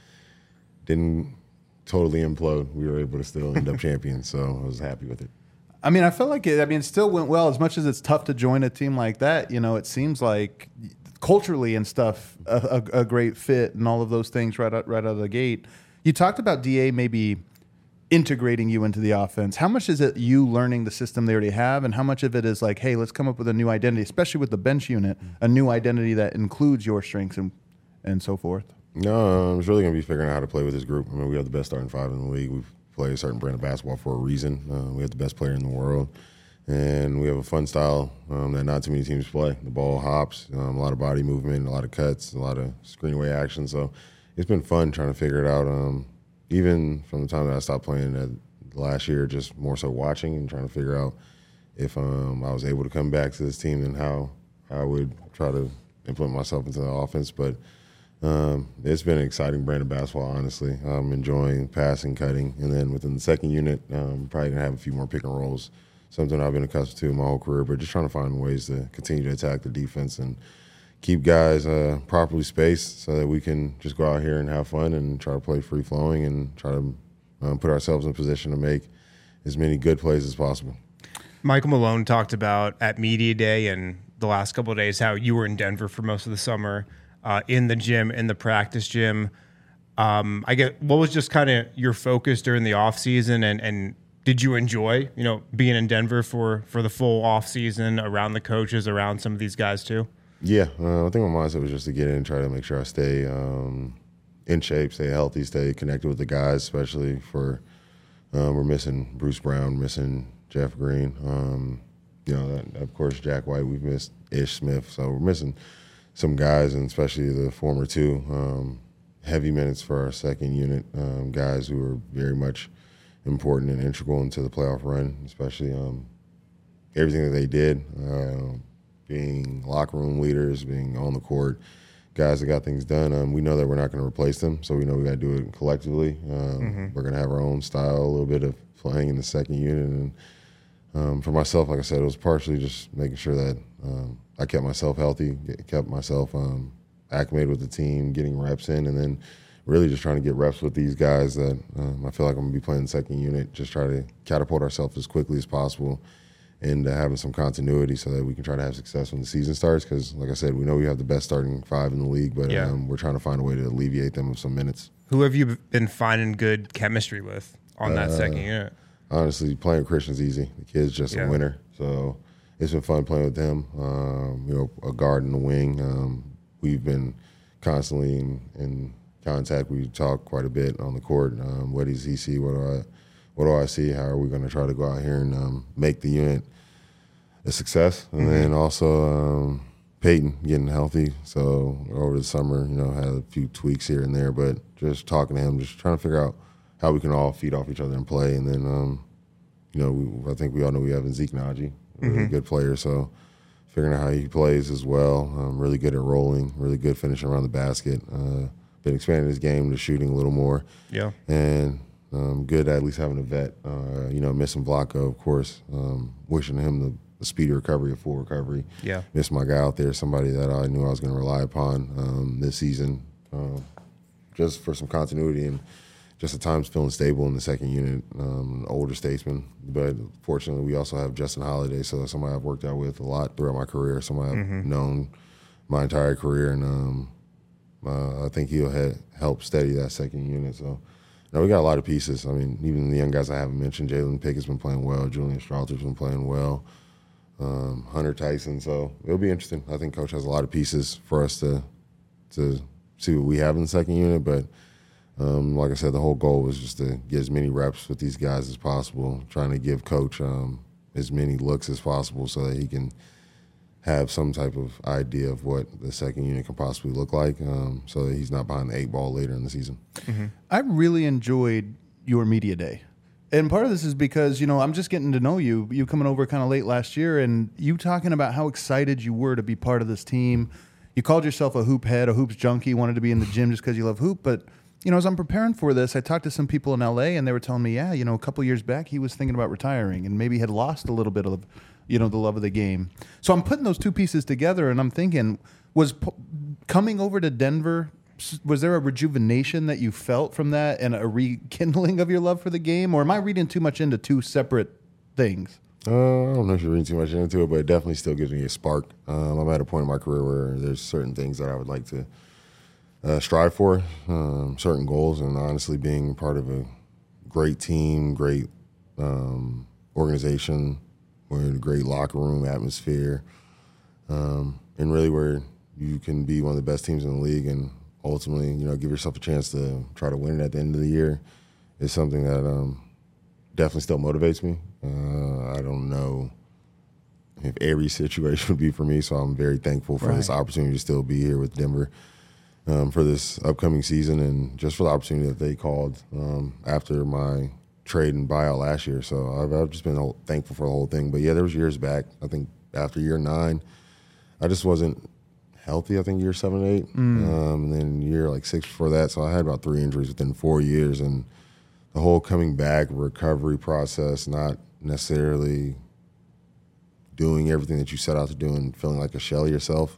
didn't totally implode. We were able to still end up champions, so I was happy with it. I mean, I felt like it still went well. As much as it's tough to join a team like that, you know, it seems like culturally and stuff, a great fit and all of those things right out of the gate. You talked about DA maybe integrating you into the offense. How much is it you learning the system they already have, and how much of it is like, hey, let's come up with a new identity, especially with the bench unit, a new identity that includes your strengths and so forth? No, it's really going to be figuring out how to play with this group. I mean, we have the best starting 5 in the league. We play a certain brand of basketball for a reason. We have the best player in the world, and we have a fun style that not too many teams play. The ball hops, a lot of body movement, a lot of cuts, a lot of screen away action. So it's been fun trying to figure it out. Even from the time that I stopped playing last year, just more so watching and trying to figure out if I was able to come back to this team and how I would try to implement myself into the offense. But it's been an exciting brand of basketball, honestly. I'm enjoying passing, cutting, and then within the second unit, probably going to have a few more pick and rolls, something I've been accustomed to my whole career, but just trying to find ways to continue to attack the defense and keep guys properly spaced so that we can just go out here and have fun and try to play free-flowing and try to put ourselves in a position to make as many good plays as possible. Michael Malone talked about at Media Day and the last couple of days how you were in Denver for most of the summer, in the gym, in the practice gym. What was just kind of your focus during the offseason, and did you enjoy, being in Denver for the full offseason, around the coaches, around some of these guys too? Yeah, I think my mindset was just to get in and try to make sure I stay in shape, stay healthy, stay connected with the guys, especially for we're missing Bruce Brown, missing Jeff Green. Of course, Jack White. We've missed Ish Smith, so we're missing some guys, and especially the former two. Heavy minutes for our second unit, guys who are very much important and integral into the playoff run, especially everything that they did, being locker room leaders, being on the court, guys that got things done. We know that we're not going to replace them, so we know we got to do it collectively. We're going to have our own style, a little bit of playing in the second unit. And for myself, like I said, it was partially just making sure that I kept myself healthy, kept myself acclimated with the team, getting reps in, and then really just trying to get reps with these guys that I feel like I'm going to be playing the second unit, just try to catapult ourselves as quickly as possible and having some continuity so that we can try to have success when the season starts. Because, like I said, we know we have the best starting five in the league, but we're trying to find a way to alleviate them of some minutes. Who have you been finding good chemistry with on that second unit? Honestly, playing with Christian's easy. The kid's just a winner. So it's been fun playing with him. A guard in the wing. We've been constantly in contact. We talk quite a bit on the court. What does he see? What do I see? How are we going to try to go out here and make the unit a success? And then also Peyton getting healthy. So over the summer, had a few tweaks here and there, but just talking to him, just trying to figure out how we can all feed off each other and play. And then, I think we all know we have Zeke Naji, a really good player. So figuring out how he plays as well. Really good at rolling, really good finishing around the basket. Been expanding his game to shooting a little more. Yeah. And good at least having a vet. Missing Vlaco, of course. Wishing him the speedy recovery, a full recovery. Yeah. Missed my guy out there, somebody that I knew I was going to rely upon this season, just for some continuity and just at times feeling stable in the second unit, older statesman. But fortunately, we also have Justin Holiday, so somebody I've worked out with a lot throughout my career, somebody I've known my entire career, and I think he'll help steady that second unit. So, we got a lot of pieces. I mean, even the young guys I haven't mentioned, Jalen Pickett's been playing well, Julian Strauter's been playing well, Hunter Tyson. So it'll be interesting. I think Coach has a lot of pieces for us to see what we have in the second unit, but like I said, the whole goal was just to get as many reps with these guys as possible, trying to give Coach as many looks as possible so that he can have some type of idea of what the second unit can possibly look like, so that he's not behind the 8 ball later in the season. I really enjoyed your media day. And part of this is because, I'm just getting to know you. You coming over kind of late last year, and you talking about how excited you were to be part of this team. You called yourself a hoop head, a hoops junkie, wanted to be in the gym just because you love hoop, but as I'm preparing for this, I talked to some people in LA, and they were telling me, a couple years back, he was thinking about retiring and maybe had lost a little bit of, the love of the game. So I'm putting those two pieces together, and I'm thinking, coming over to Denver, was there a rejuvenation that you felt from that and a rekindling of your love for the game? Or am I reading too much into two separate things? I don't know if you're reading too much into it, but it definitely still gives me a spark. I'm at a point in my career where there's certain things that I would like to strive for, certain goals, and honestly being part of a great team, great organization, with a great locker room atmosphere, and really where you can be one of the best teams in the league and ultimately, give yourself a chance to try to win it at the end of the year is something that definitely still motivates me. I don't know if every situation would be for me, so I'm very thankful for this opportunity to still be here with Denver for this upcoming season and just for the opportunity that they called after my trade and buyout last year. So I've just been thankful for the whole thing. But yeah, there was years back, I think after year 9, I just wasn't healthy, I think year 7 and 8. And then year 6 before that. So I had about 3 injuries within 4 years. And the whole coming back recovery process, not necessarily doing everything that you set out to do and feeling like a shell of yourself.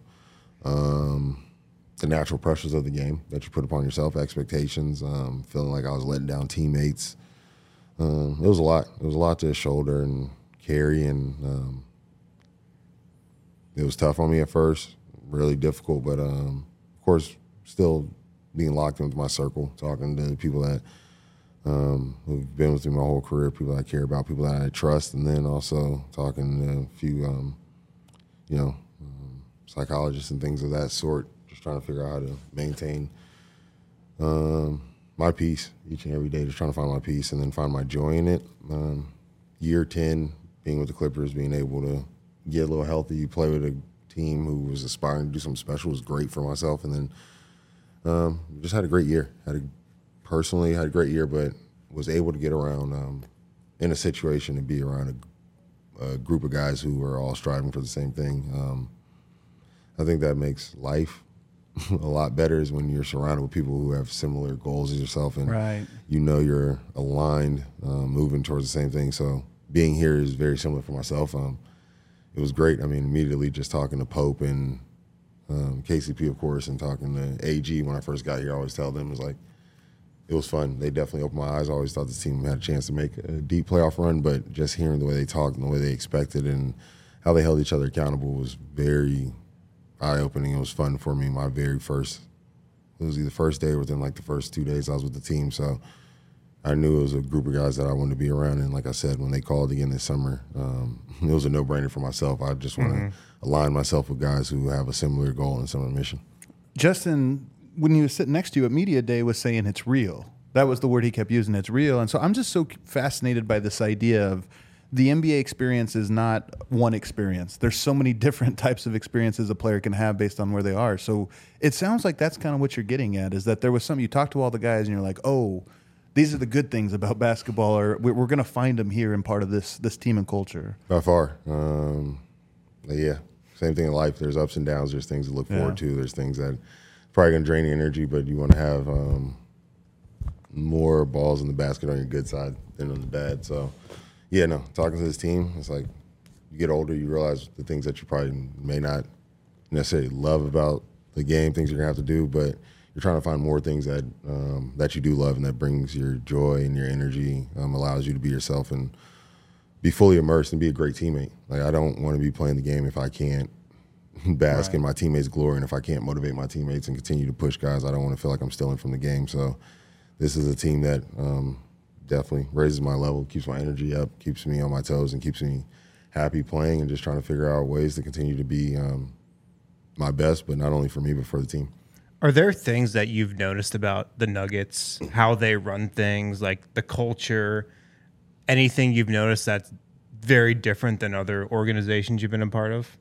The natural pressures of the game that you put upon yourself, expectations, feeling like I was letting down teammates. It was a lot. It was a lot to shoulder and carry, and it was tough on me at first, really difficult. But of course, still being locked into my circle, talking to people that who've been with me my whole career, people that I care about, people that I trust, and then also talking to a few, psychologists and things of that sort. Just trying to figure out how to maintain my peace each and every day, just trying to find my peace and then find my joy in it. Year 10, being with the Clippers, being able to get a little healthy, play with a team who was aspiring to do something special was great for myself. And then just had a great year. Personally had a great year, but was able to get around in a situation to be around a group of guys who are all striving for the same thing. I think that makes life a lot better is when you're surrounded with people who have similar goals as yourself and you know you're aligned, moving towards the same thing. So being here is very similar for myself. It was great. I mean, immediately just talking to Pope and KCP, of course, and talking to AG when I first got here, I always tell them, it was fun. They definitely opened my eyes. I always thought the team had a chance to make a deep playoff run, but just hearing the way they talked and the way they expected and how they held each other accountable was very eye-opening. It was fun for me. It was either first day or within like the first 2 days I was with the team. So I knew it was a group of guys that I wanted to be around. And like I said, when they called again this summer, it was a no-brainer for myself. I just want to align myself with guys who have a similar goal and similar mission. Justin, when he was sitting next to you at Media Day, was saying it's real. That was the word he kept using, it's real. And so I'm just so fascinated by this idea of the NBA experience is not one experience. There's so many different types of experiences a player can have based on where they are. So it sounds like that's kind of what you're getting at, is that there was something, you talked to all the guys and you're like, oh, these are the good things about basketball, or we're going to find them here in part of this team and culture. By far. Yeah, same thing in life. There's ups and downs. There's things to look forward to. There's things that probably going to drain your energy, but you want to have more balls in the basket on your good side than on the bad. So, yeah, no, talking to this team, it's like you get older, you realize the things that you probably may not necessarily love about the game, things you're going to have to do, but you're trying to find more things that that you do love and that brings your joy and your energy, allows you to be yourself and be fully immersed and be a great teammate. Like, I don't want to be playing the game if I can't bask in my teammates' glory, and if I can't motivate my teammates and continue to push guys, I don't want to feel like I'm stealing from the game. So this is a team that definitely raises my level, keeps my energy up, keeps me on my toes, and keeps me happy playing and just trying to figure out ways to continue to be my best, but not only for me, but for the team. Are there things that you've noticed about the Nuggets, how they run things, like the culture, anything you've noticed that's very different than other organizations you've been a part of?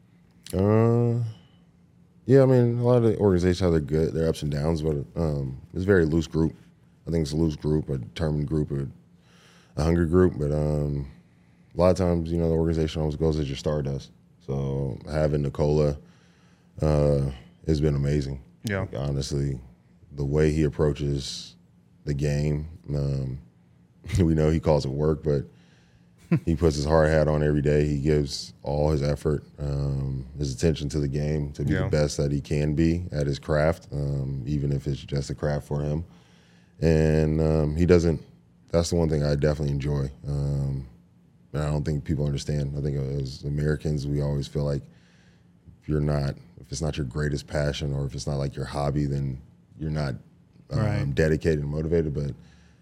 Yeah, I mean, a lot of the organizations have their ups and downs, but it's a very loose group. I think it's a loose group, a determined group, a hungry group. But a lot of times, the organization always goes as your star does. So having Nikola has been amazing. Yeah. Like, honestly, the way he approaches the game, we know he calls it work, but he puts his hard hat on every day. He gives all his effort, his attention to the game to be the best that he can be at his craft, even if it's just a craft for him. And he doesn't – that's the one thing I definitely enjoy. And I don't think people understand. I think as Americans, we always feel like if it's not your greatest passion or if it's not like your hobby, then you're not dedicated and motivated. But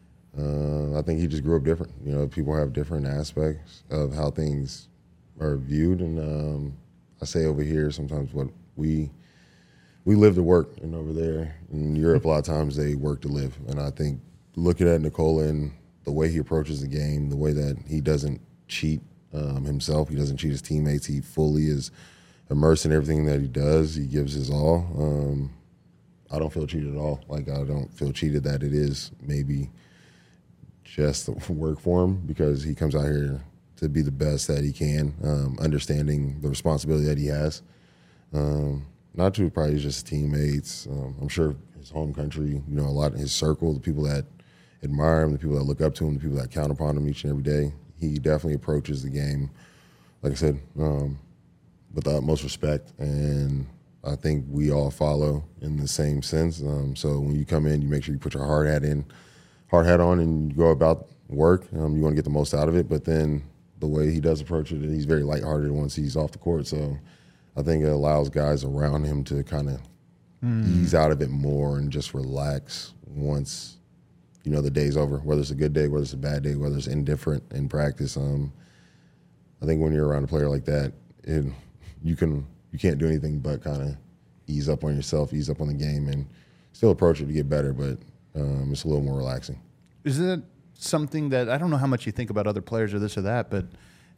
I think he just grew up different. People have different aspects of how things are viewed. And I say over here sometimes what we live to work, and over there in Europe, a lot of times they work to live. And I think looking at Nikola and the way he approaches the game, the way that he doesn't cheat himself, he doesn't cheat his teammates, he fully is immersed in everything that he does. He gives his all. I don't feel cheated at all. Like, I don't feel cheated that it is maybe just work for him, because he comes out here to be the best that he can, understanding the responsibility that he has. Not to probably just his teammates. I'm sure his home country, a lot of his circle, the people that admire him, the people that look up to him, the people that count upon him each and every day. He definitely approaches the game, like I said, with the utmost respect, and I think we all follow in the same sense. So when you come in, you make sure you put your hard hat on, and you go about work. You want to get the most out of it, but then the way he does approach it, he's very lighthearted once he's off the court. So I think it allows guys around him to kind of ease out of it more and just relax once, the day's over, whether it's a good day, whether it's a bad day, whether it's indifferent in practice. I think when you're around a player like that, you can't do anything but kind of ease up on yourself, ease up on the game, and still approach it to get better, but it's a little more relaxing. Is it something that, I don't know how much you think about other players or this or that, but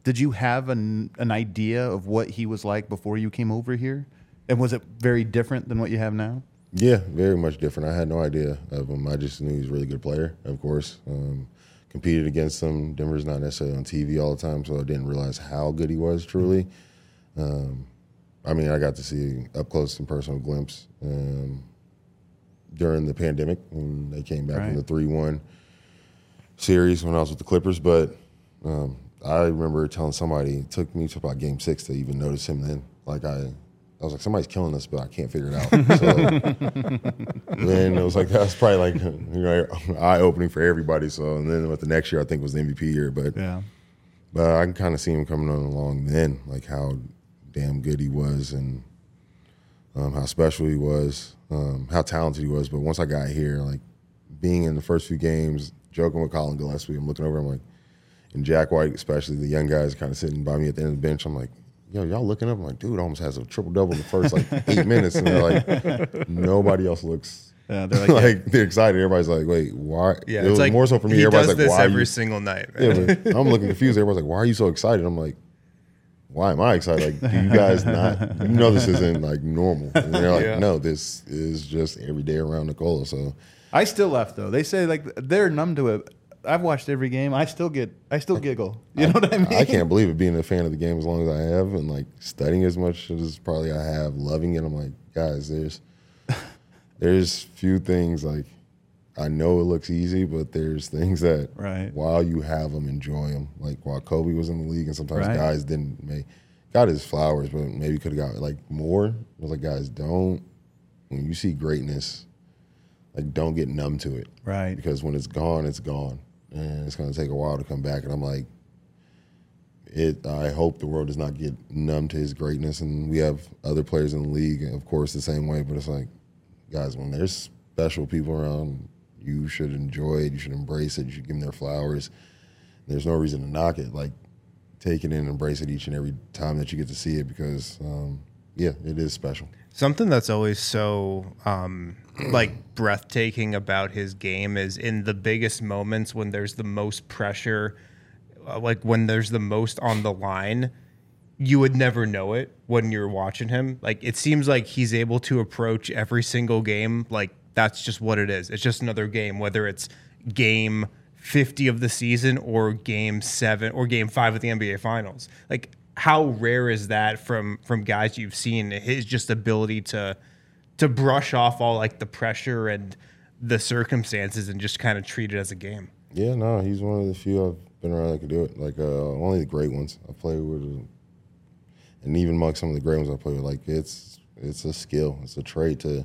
did you have an idea of what he was like before you came over here? And was it very different than what you have now? Yeah, very much different. I had no idea of him. I just knew he was a really good player, of course. Competed against him. Denver's not necessarily on TV all the time, so I didn't realize how good he was truly. I mean, I got to see up close and personal glimpse during the pandemic when they came back from the 3-1 series when I was with the Clippers. But I remember telling somebody, it took me to about Game 6 to even notice him then. Like I was like, somebody's killing us, but I can't figure it out. So then it was like, that's probably like, eye-opening for everybody. So, and then with the next year, I think was the MVP year. But I can kind of see him coming on along then, like how damn good he was and how special he was, how talented he was. But once I got here, like being in the first few games, joking with Colin Gillespie, I'm looking over, I'm like, and Jack White, especially the young guys kind of sitting by me at the end of the bench, I'm like, yo, y'all looking up? I'm like, dude, almost has a triple-double in the first, 8 minutes. And they're like, nobody else looks they're like, they're excited. Everybody's like, wait, why? Yeah, it was like, more so for me. He Everybody's does like, this why every single night. Yeah, but I'm looking confused. Everybody's like, why are you so excited? I'm like, why am I excited? Like, do you guys not, this isn't normal. And they're like, no, this is just every day around Nikola. So I still laugh though. They say they're numb to it. I've watched every game. I still giggle. You know what I mean? I can't believe it, being a fan of the game as long as I have and studying as much as probably I have, loving it. I'm like, guys, there's few things I know it looks easy, but there's things that while you have them, enjoy them. Like while Kobe was in the league and sometimes guys didn't got his flowers, but maybe could have got more. I was like, guys, when you see greatness, don't get numb to it. Right. Because when it's gone, it's gone. And it's going to take a while to come back. And I'm like, I hope the world does not get numb to his greatness. And we have other players in the league, of course, the same way. But it's like, guys, when there's special people around, you should enjoy it. You should embrace it. You should give them their flowers. There's no reason to knock it. Take it in and embrace it each and every time that you get to see it because, it is special. Something that's always so breathtaking about his game is in the biggest moments when there's the most pressure, when there's the most on the line, you would never know it when you're watching him. It seems like he's able to approach every single game that's just what it is. It's just another game, whether it's game 50 of the season or game 7 or game 5 of the NBA Finals. How rare is that from guys you've seen? His just ability to brush off all the pressure and the circumstances and just kind of treat it as a game. Yeah, no, he's one of the few I've been around that could do it. Only the great ones I play with, and even among some of the great ones I play with, it's a skill, it's a trait to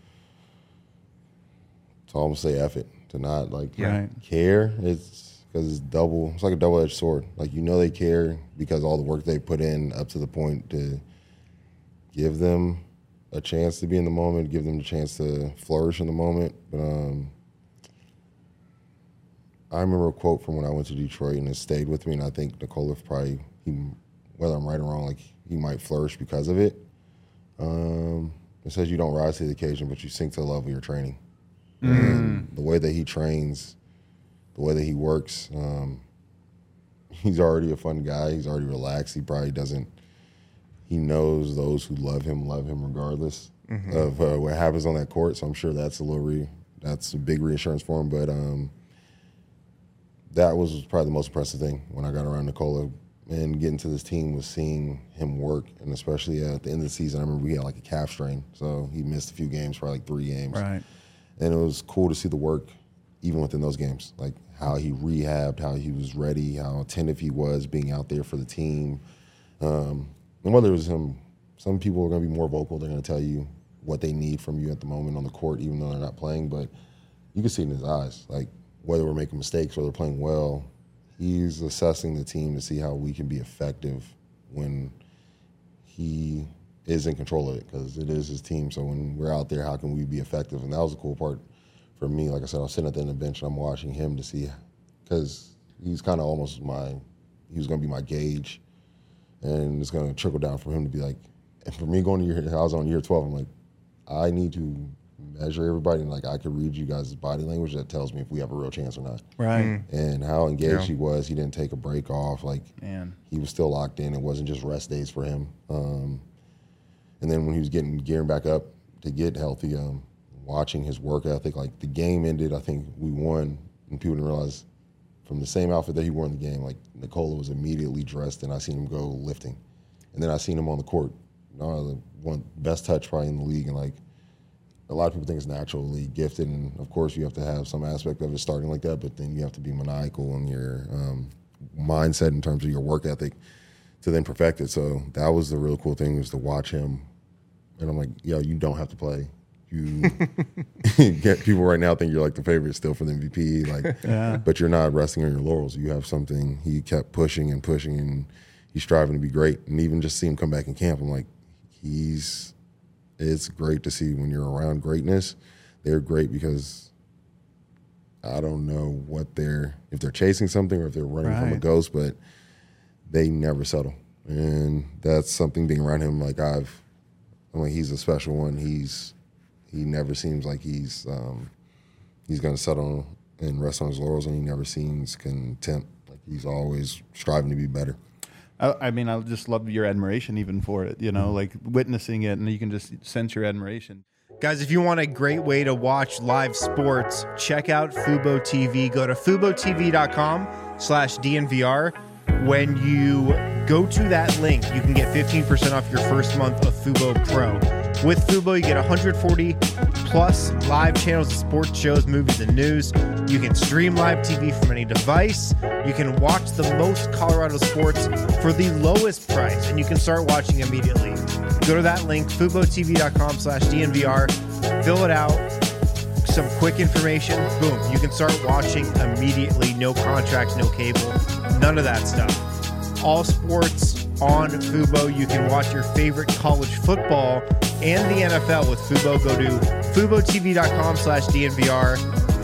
almost say F it, to not care. It's because it's like a double-edged sword. They care because all the work they put in up to the point to give them a chance to be in the moment, give them the chance to flourish in the moment. But I remember a quote from when I went to Detroit, and it stayed with me, and I think Nikola probably, whether I'm right or wrong, he might flourish because of it. It says you don't rise to the occasion, but you sink to the level of your training. And the way that he trains, the way that he works, he's already a fun guy. He's already relaxed. He probably doesn't. He knows those who love him regardless of what happens on that court. So I'm sure that's that's a big reassurance for him. But that was probably the most impressive thing when I got around Nikola and getting to this team was seeing him work. And especially at the end of the season, I remember we had a calf strain. So he missed a few games, probably 3 games. Right. And it was cool to see the work even within those games, how he rehabbed, how he was ready, how attentive he was being out there for the team. And whether it was him, some people are going to be more vocal. They're going to tell you what they need from you at the moment on the court, even though they're not playing. But you can see it in his eyes, whether we're making mistakes or they're playing well, he's assessing the team to see how we can be effective when he is in control of it, because it is his team. So when we're out there, how can we be effective? And that was the cool part for me. Like I said, I was sitting at the end of the bench and I'm watching him to see, because he's kind of almost he was going to be my gauge, and it's going to trickle down for him to be and for me going to I was on year 12, I'm like, I need to measure everybody, and like I could read you guys' body language that tells me if we have a real chance or not. Right. And how engaged he was. He didn't take a break off. Like, Man. he was still locked in. It wasn't just rest days for him. And then when he was gearing back up to get healthy, watching his work ethic, like the game ended, I think we won, and people didn't realize from the same outfit that he wore in the game, like Nikola was immediately dressed, and I seen him go lifting. And then I seen him on the court. The one best touch probably in the league, and like a lot of people think it's naturally gifted, and of course you have to have some aspect of it starting like that, but then you have to be maniacal in your mindset in terms of your work ethic to then perfect it. So that was the real cool thing, was to watch him. And I'm like, yo, you don't have to play. You get people right now think you're like the favorite still for the MVP, like, but you're not resting on your laurels. You have something. He kept pushing and pushing, and he's striving to be great. And even just see him come back in camp, I'm like, it's great to see when you're around greatness. They're great because I don't know if they're chasing something or if they're running from a ghost, but they never settle. And that's something being around him. Like he's a special one. He never seems like he's going to settle and rest on his laurels, and he never seems content. Like, he's always striving to be better. I mean, I just love your admiration even for it, like witnessing it, and you can just sense your admiration. Guys, if you want a great way to watch live sports, check out Fubo TV. Go to FuboTV.com/DNVR. When you go to that link, you can get 15% off your first month of Fubo Pro. With Fubo, you get 140 plus live channels of sports shows, movies, and news. You can stream live TV from any device. You can watch the most Colorado sports for the lowest price, and you can start watching immediately. Go to that link, FuboTV.com/DNVR, fill it out, some quick information, boom, you can start watching immediately. No contract, no cable, none of that stuff. All sports on Fubo. You can watch your favorite college football and the NFL with Fubo. Go to FuboTV.com/DNVR,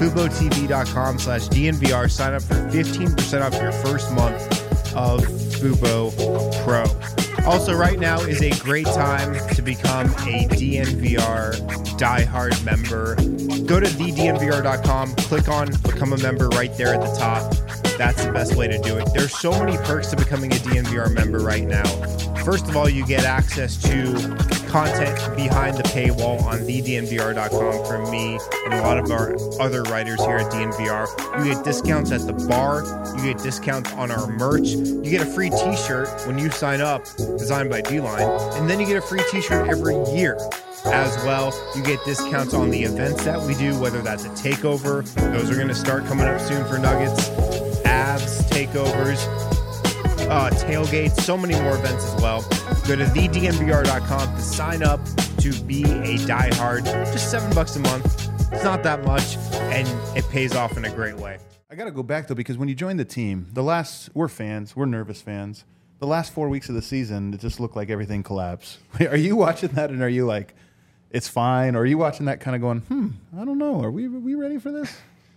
FuboTV.com/DNVR. Sign up for 15% off your first month of Fubo Pro. Also, right now is a great time to become a DNVR diehard member. Go to thednvr.com, click on Become a Member right there at the top. That's the best way to do it. There's so many perks to becoming a DNVR member right now. First of all, you get access to content behind the paywall on thednvr.com from me and a lot of our other writers here at DNVR. You get discounts at the bar. You get discounts on our merch. You get a free t-shirt when you sign up, designed by D-Line. And then you get a free t-shirt every year as well. You get discounts on the events that we do, whether that's a takeover. Those are going to start coming up soon for Nuggets. Avs, takeovers, tailgates, so many more events as well. Go to thednvr.com to sign up to be a diehard. Just $7 a month. It's not that much, and it pays off in a great way. I got to go back, though, because when you join the team, we're fans, we're nervous fans. The last 4 weeks of the season, it just looked like everything collapsed. Are you watching that, and are you like, it's fine? Or are you watching that kind of going, I don't know, are we ready for this?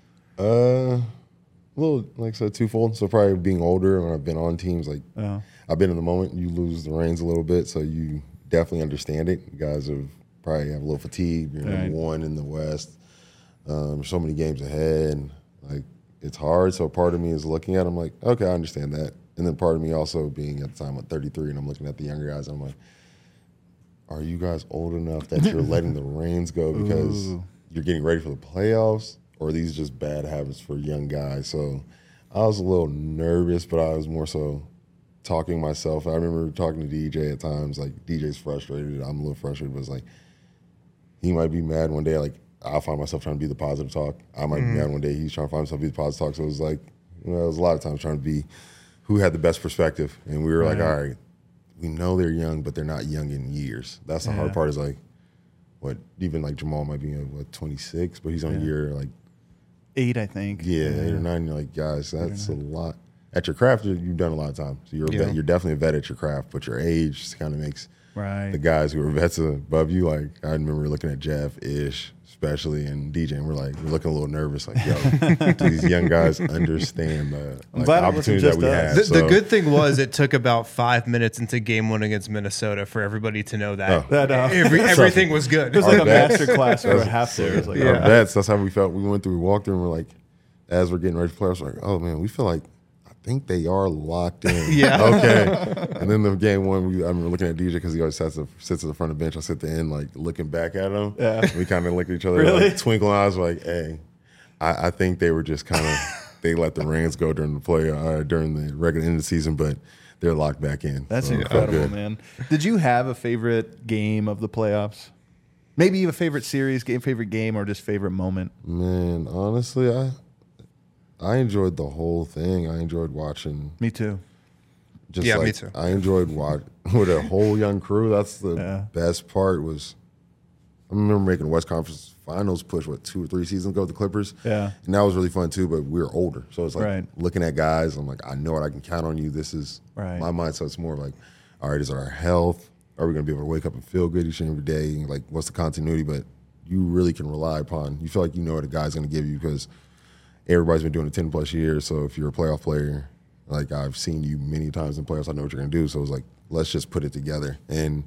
A little, like I said, twofold. So probably being older, when I've been on teams, like I've been in the moment, you lose the reins a little bit, so you definitely understand it. You guys probably have a little fatigue. You're number one in the West. So many games ahead. Like, it's hard. So part of me is looking at it, I'm like, okay, I understand that. And then part of me also being at the time at 33, and I'm looking at the younger guys, and I'm like, are you guys old enough that you're letting the reins go because you're getting ready for the playoffs? Or are these just bad habits for young guys? So I was a little nervous, but I was more so talking myself. I remember talking to DJ at times, like, DJ's frustrated. I'm a little frustrated, but it's like, he might be mad one day. Like, I'll find myself trying to be the positive talk. I might be mad one day. He's trying to find himself to be the positive talk. So it was like, it was a lot of times trying to be who had the best perspective. And we were like, all right, we know they're young, but they're not young in years. That's the hard part, is like, even like Jamal might be 26, but he's on year like 8, I think. Yeah, 8 or 9. You're like, guys, that's a lot. At your craft, you've done a lot of time. So you're a vet, you're definitely a vet at your craft, but your age kind of makes Right. the guys who are vets above you. Like I remember looking at Jeff, Ish, especially, and DJ, and we're looking a little nervous. Like, yo, do these young guys understand the glad it wasn't opportunities that just we us. have? The good thing was it took about 5 minutes into game 1 against Minnesota for everybody to know that, everything was good. It was like a vets. master class for a half there. It was like, Our vets, that's how we felt. We went through, we walked through, and we're like, as we're getting ready to play, I was like, oh man, we feel like I think they are locked in. Yeah. Okay. And then the game 1, I remember looking at DJ because he always sits at the front of the bench. I sit at the end, like looking back at him. Yeah. We kind of look at each other, Really? like twinkling eyes, like, hey, I think they were just kind of they let the reins go during the regular end of the season, but they're locked back in. That's So it felt incredible, good. man. Did you have a favorite game of the playoffs? Maybe a favorite series game, favorite game, or just favorite moment? Man, honestly, I enjoyed the whole thing. I enjoyed watching. Me too. Just Yeah, like, me too. I enjoyed watching with a whole young crew. That's the Yeah. best part. Was I remember making West Conference Finals push 2 or 3 seasons ago with the Clippers. Yeah. And that was really fun too. But we were older, so it's like Right. looking at guys. I'm like, I know it. I can count on you. This is Right. my mindset. It's more like, all right, is our health? Are we going to be able to wake up and feel good each and every day? And like, what's the continuity? But you really can rely upon. You feel like you know what a guy's going to give you because everybody's been doing it 10 plus years. So if you're a playoff player, like I've seen you many times in playoffs, I know what you're going to do. So it was like, let's just put it together. And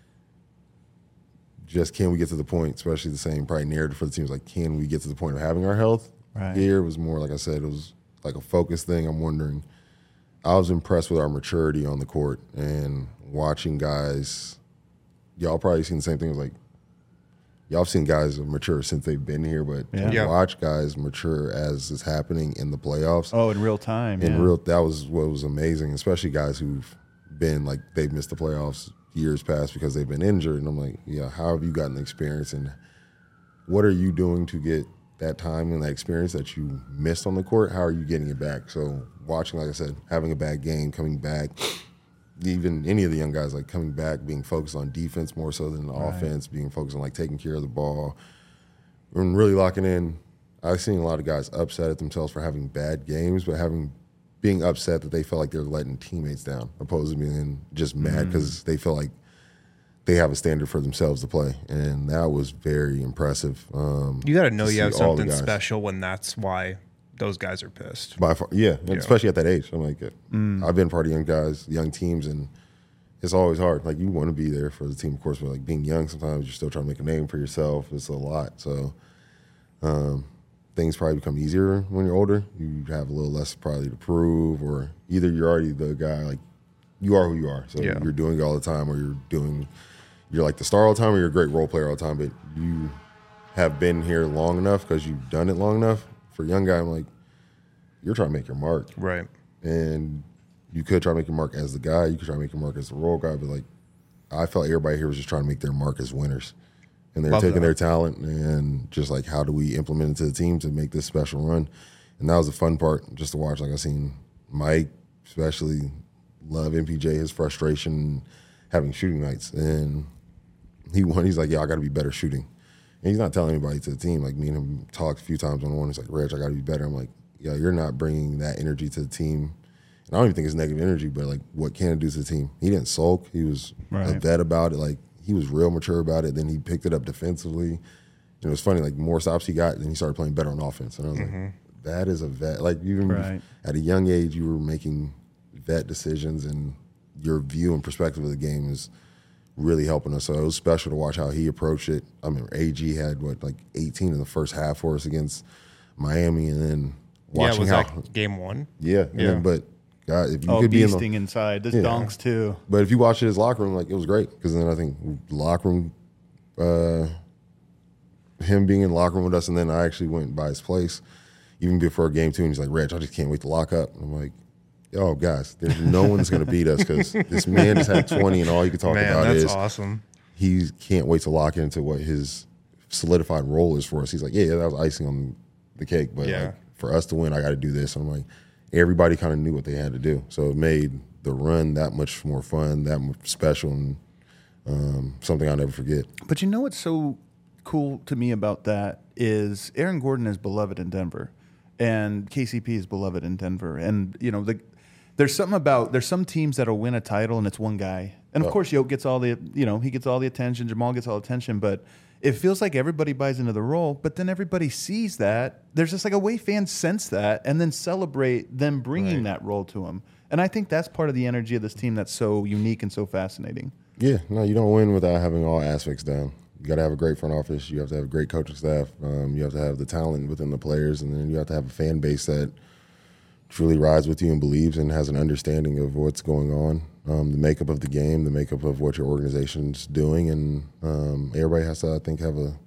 just can we get to the point, especially the same probably narrative for the teams, like can we get to the point of having our health? Right. Here it was more, like I said, it was like a focus thing. I'm wondering, I was impressed with our maturity on the court and watching guys, y'all probably seen the same thing. It was like, y'all have seen guys mature since they've been here, but Yeah. to Yeah. watch guys mature as is happening in the playoffs, Oh, in real time. that was what was amazing, especially guys who've been like they've missed the playoffs years past because they've been injured. And I'm like, yeah, how have you gotten the experience and what are you doing to get that time and that experience that you missed on the court? How are you getting it back? So watching, like I said, having a bad game, coming back, even any of the young guys like coming back, being focused on defense more so than the offense, being focused on like taking care of the ball and really locking in. I've seen a lot of guys upset at themselves for having bad games, but being upset that they feel like they're letting teammates down, opposed to being just mad because they feel like they have a standard for themselves to play, and that was very impressive. You got to know to you have see all the something guys. special when that's why those guys are pissed. By far, yeah, and especially at that age. I'm like, I've been part of young guys, young teams, and it's always hard. Like you want to be there for the team, of course, but like being young, sometimes you're still trying to make a name for yourself. It's a lot, so things probably become easier when you're older. You have a little less probably to prove, or either you're already the guy, like you are who you are, so Yeah. you're doing it all the time, or you're like the star all the time, or you're a great role player all the time, but you have been here long enough because you've done it long enough. For a young guy, I'm like, you're trying to make your mark. Right. And you could try to make your mark as the guy. You could try to make your mark as the role guy. But, like, I felt everybody here was just trying to make their mark as winners. And they're Love taking that. their talent and just, like, how do we implement it to the team to make this special run? And that was the fun part, just to watch. Like, I seen Mike, especially, love MPJ, his frustration having shooting nights. And he won. He's like, yeah, I got to be better shooting. And he's not telling anybody to the team. Like, me and him talked a few times on one. He's like, Reg, I got to be better. I'm like, yeah, you're not bringing that energy to the team. And I don't even think it's negative energy, but, like, what can it do to the team? He didn't sulk. He was a Right. vet about it. Like, he was real mature about it. Then he picked it up defensively. And it was funny. Like, the more stops he got, then he started playing better on offense. And I was like, that is a vet. Like, even Right. at a young age, you were making vet decisions, and your view and perspective of the game is really helping us. So it was special to watch how he approached it. I mean, AG had, 18 in the first half for us against Miami, and then watching was how that game 1? yeah, and Yeah. then, but God, if you Oh, could be in beasting the, inside. This Yeah. donks too. but if you watch it his locker room, like, it was great because then I think locker room, him being in the locker room with us, and then I actually went by his place even before game 2, and he's like, Reg, I just can't wait to lock up. And I'm like, yo, guys, there's no one's going to beat us because this man just had 20 and all he could talk Man, about that's is awesome. he can't wait to lock into what his solidified role is for us. He's like, yeah, that was icing on the cake, but Yeah. like, for us to win, I got to do this. And I'm like, everybody kind of knew what they had to do, so it made the run that much more fun, that much special, and something I'll never forget. But you know what's so cool to me about that is Aaron Gordon is beloved in Denver, and KCP is beloved in Denver, and you know the there's some teams that'll win a title and it's one guy. And of course, Yoke gets all the, he gets all the attention. Jamal gets all the attention, but it feels like everybody buys into the role. But then everybody sees that. There's just like a way fans sense that and then celebrate them bringing that role to them. And I think that's part of the energy of this team that's so unique and so fascinating. Yeah, no, you don't win without having all aspects down. You got to have a great front office. You have to have a great coaching staff. You have to have the talent within the players, and then you have to have a fan base that truly rides with you and believes and has an understanding of what's going on, the makeup of the game, the makeup of what your organization's doing, and everybody has to, I think, have a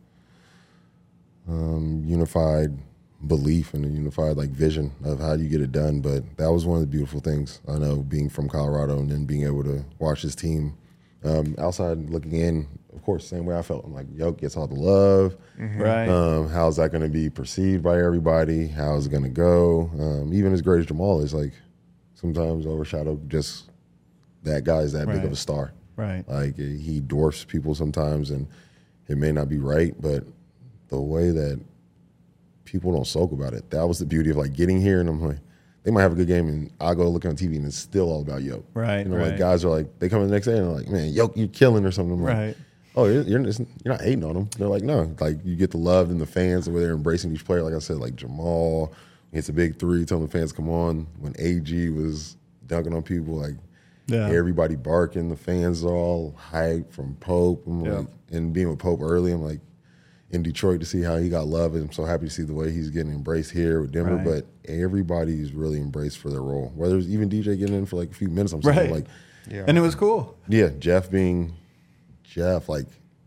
unified belief and a unified vision of how you get it done. But that was one of the beautiful things, I know, being from Colorado and then being able to watch this team outside looking in. Of course, same way I felt. I'm like, Yoke gets all the love. Right. How's that going to be perceived by everybody? How's it going to go? Even as great as Jamal is, sometimes overshadowed just that guy is that big of a star. Right. He dwarfs people sometimes, and it may not be right, but the way that people don't soak about it, that was the beauty of getting here. And I'm like, they might have a good game, and I'll go look on TV, and it's still all about Yoke. Right. Guys are they come in the next day, and they're like, man, Yoke, you're killing or something. I'm Right. like, oh, you're not hating on them. They're like, no. You get the love and the fans, the way they're embracing each player. Like I said, Jamal hits a big three, telling the fans, come on. When AG was dunking on people, everybody barking. The fans are all hyped from Pope. And being with Pope early, I'm like, in Detroit to see how he got love. And I'm so happy to see the way he's getting embraced here with Denver. Right. But everybody's really embraced for their role. Whether it's even DJ getting in for a few minutes, I'm saying, And it was cool. Yeah, Jeff being Jeff, it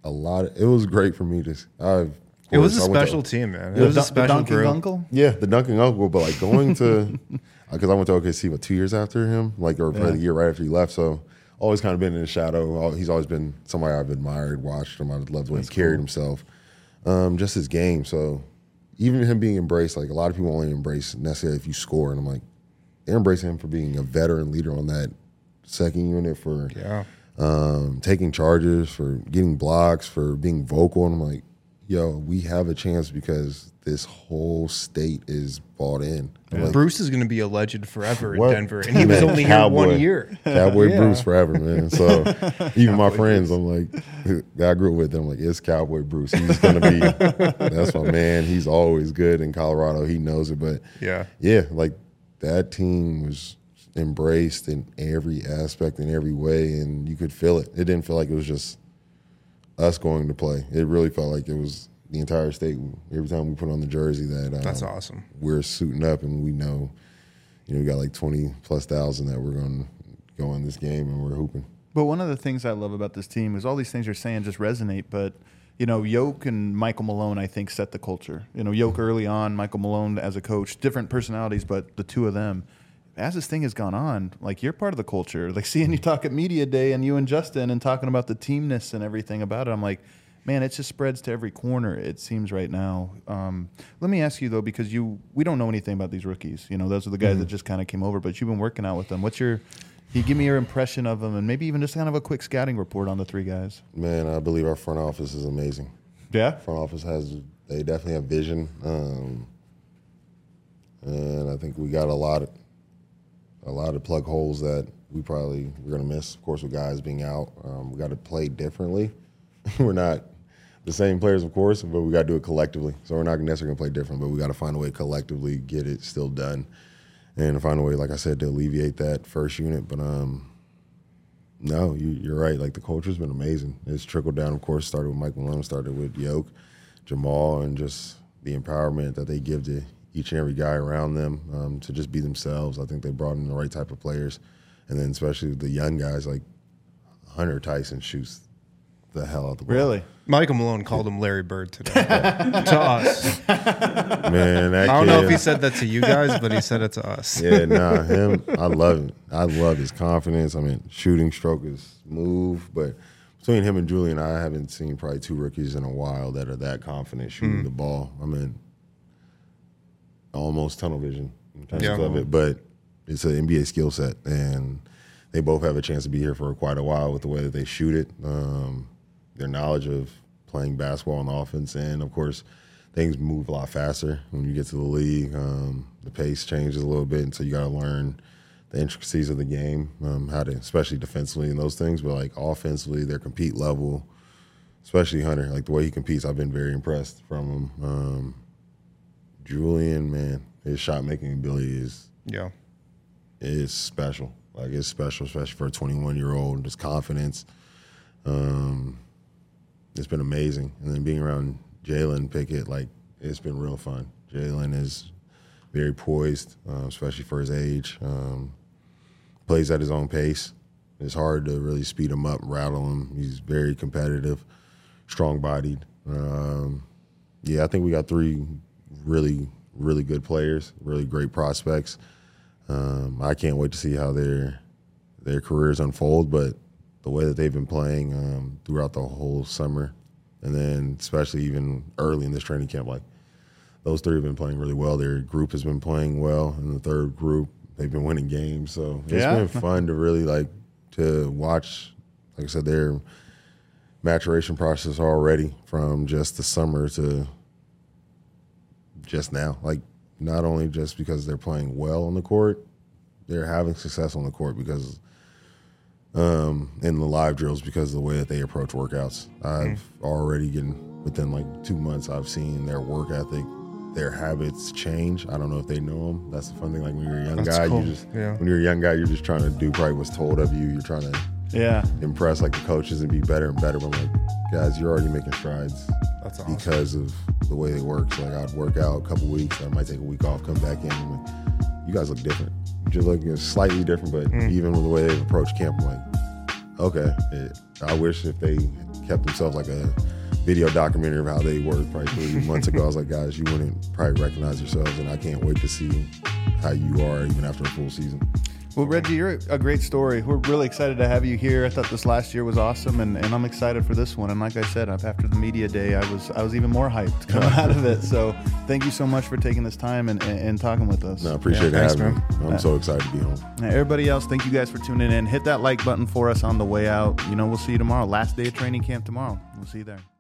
was great for me to. It was a special team, man. It was a special Dunking group. Uncle. Yeah, the Dunking Uncle, but going to, because I went to OKC 2 years after him, or probably the year right after he left. So always kind of been in the shadow. He's always been somebody I've admired, watched him. I loved the way he carried himself, just his game. So even him being embraced, a lot of people only embrace necessarily if you score, and I'm like, they're embracing him for being a veteran leader on that second unit for. Yeah. Taking charges, for getting blocks, for being vocal. And I'm like, yo, we have a chance because this whole state is bought in. Bruce is going to be a legend forever in What? Denver, and he was only here 1 year. Cowboy Bruce forever, man. So even my friends, I'm like, I grew up with them, like, it's Cowboy Bruce. He's going to be, that's my man. He's always good in Colorado. He knows it. But yeah, that team was embraced in every aspect, in every way, and you could feel it. It didn't feel like it was just us going to play. It really felt like it was the entire state. Every time we put on the jersey, that's awesome. We're suiting up, and we know, we got 20,000+ that we're going to go in this game, and we're hooping. But one of the things I love about this team is all these things you're saying just resonate. But Yoke and Michael Malone, I think, set the culture. Yoke early on, Michael Malone as a coach, different personalities, but the two of them. As this thing has gone on, you're part of the culture. Seeing you talk at Media Day and you and Justin and talking about the teamness and everything about it, I'm like, man, it just spreads to every corner, it seems right now. Let me ask you, though, because we don't know anything about these rookies. Those are the guys that just kind of came over, but you've been working out with them. Can you give me your impression of them and maybe even just kind of a quick scouting report on the three guys? Man, I believe our front office is amazing. Yeah? Front office they definitely have vision. And I think we got a lot of plug holes that we're going to miss, of course, with guys being out. We got to play differently. We're not the same players, of course, but we got to do it collectively. So we're not necessarily going to play different, but we got to find a way to collectively get it still done and find a way, like I said, to alleviate that first unit. But no, you're right. The culture's been amazing. It's trickled down, of course, started with Mike Malone, started with Yoke, Jamal, and just the empowerment that they give to each and every guy around them to just be themselves. I think they brought in the right type of players. And then especially the young guys like Hunter Tyson shoots the hell out the ball. Really? Michael Malone called him Larry Bird today. To us. Man, that I don't kid, know if he said that to you guys, but he said it to us. Yeah, him, I love him. I love his confidence. Shooting stroke is smooth, but between him and Julian, I haven't seen probably two rookies in a while that are that confident shooting the ball. Almost tunnel vision in terms of it, but it's an NBA skill set, and they both have a chance to be here for quite a while with the way that they shoot it, their knowledge of playing basketball on the offense, and of course, things move a lot faster when you get to the league. The pace changes a little bit, and so you got to learn the intricacies of the game, how to, especially defensively and those things, but like offensively, their compete level, especially Hunter, like the way he competes, I've been very impressed from him. Julian, man, his shot making ability is special. Like it's special, especially for a 21-year-old. His confidence, it's been amazing. And then being around Jalen Pickett, like it's been real fun. Jalen is very poised, especially for his age. Plays at his own pace. It's hard to really speed him up, rattle him. He's very competitive, strong-bodied. Yeah, I think we got 3 really, really good players, really great prospects. I can't wait to see how their careers unfold, but the way that they've been playing throughout the whole summer, and then especially even early in this training camp, like those 3 have been playing really well. Their group has been playing well. In the third group, they've been winning games. So it's been fun to really to watch, like I said, their maturation process already from just the summer to just now. Like not only just because they're playing well on the court, they're having success on the court because in the live drills because of the way that they approach workouts. I've already within like 2 months, I've seen their work ethic, their habits change. I don't know if they know them. That's the fun thing. Like when you're a young guy, cool. When you're a young guy, you're just trying to do probably what's told of you. You're trying to impress like the coaches and be better and better. But I'm like, guys, you're already making strides. That's awesome. Because of the way they work. So like I'd work out a couple weeks, I might take a week off, come back in. And like, you guys look different. You're looking slightly different, but even with the way they've approached camp, I'm like, okay. I wish if they kept themselves like a video documentary of how they worked probably 3 months ago. I was like, guys, you wouldn't probably recognize yourselves, and I can't wait to see how you are even after a full season. Well, Reggie, you're a great story. We're really excited to have you here. I thought this last year was awesome, and I'm excited for this one. And like I said, after the media day, I was even more hyped coming out of it. So thank you so much for taking this time and talking with us. No, I appreciate having me. I'm so excited to be home. Everybody else, thank you guys for tuning in. Hit that like button for us on the way out. We'll see you tomorrow. Last day of training camp tomorrow. We'll see you there.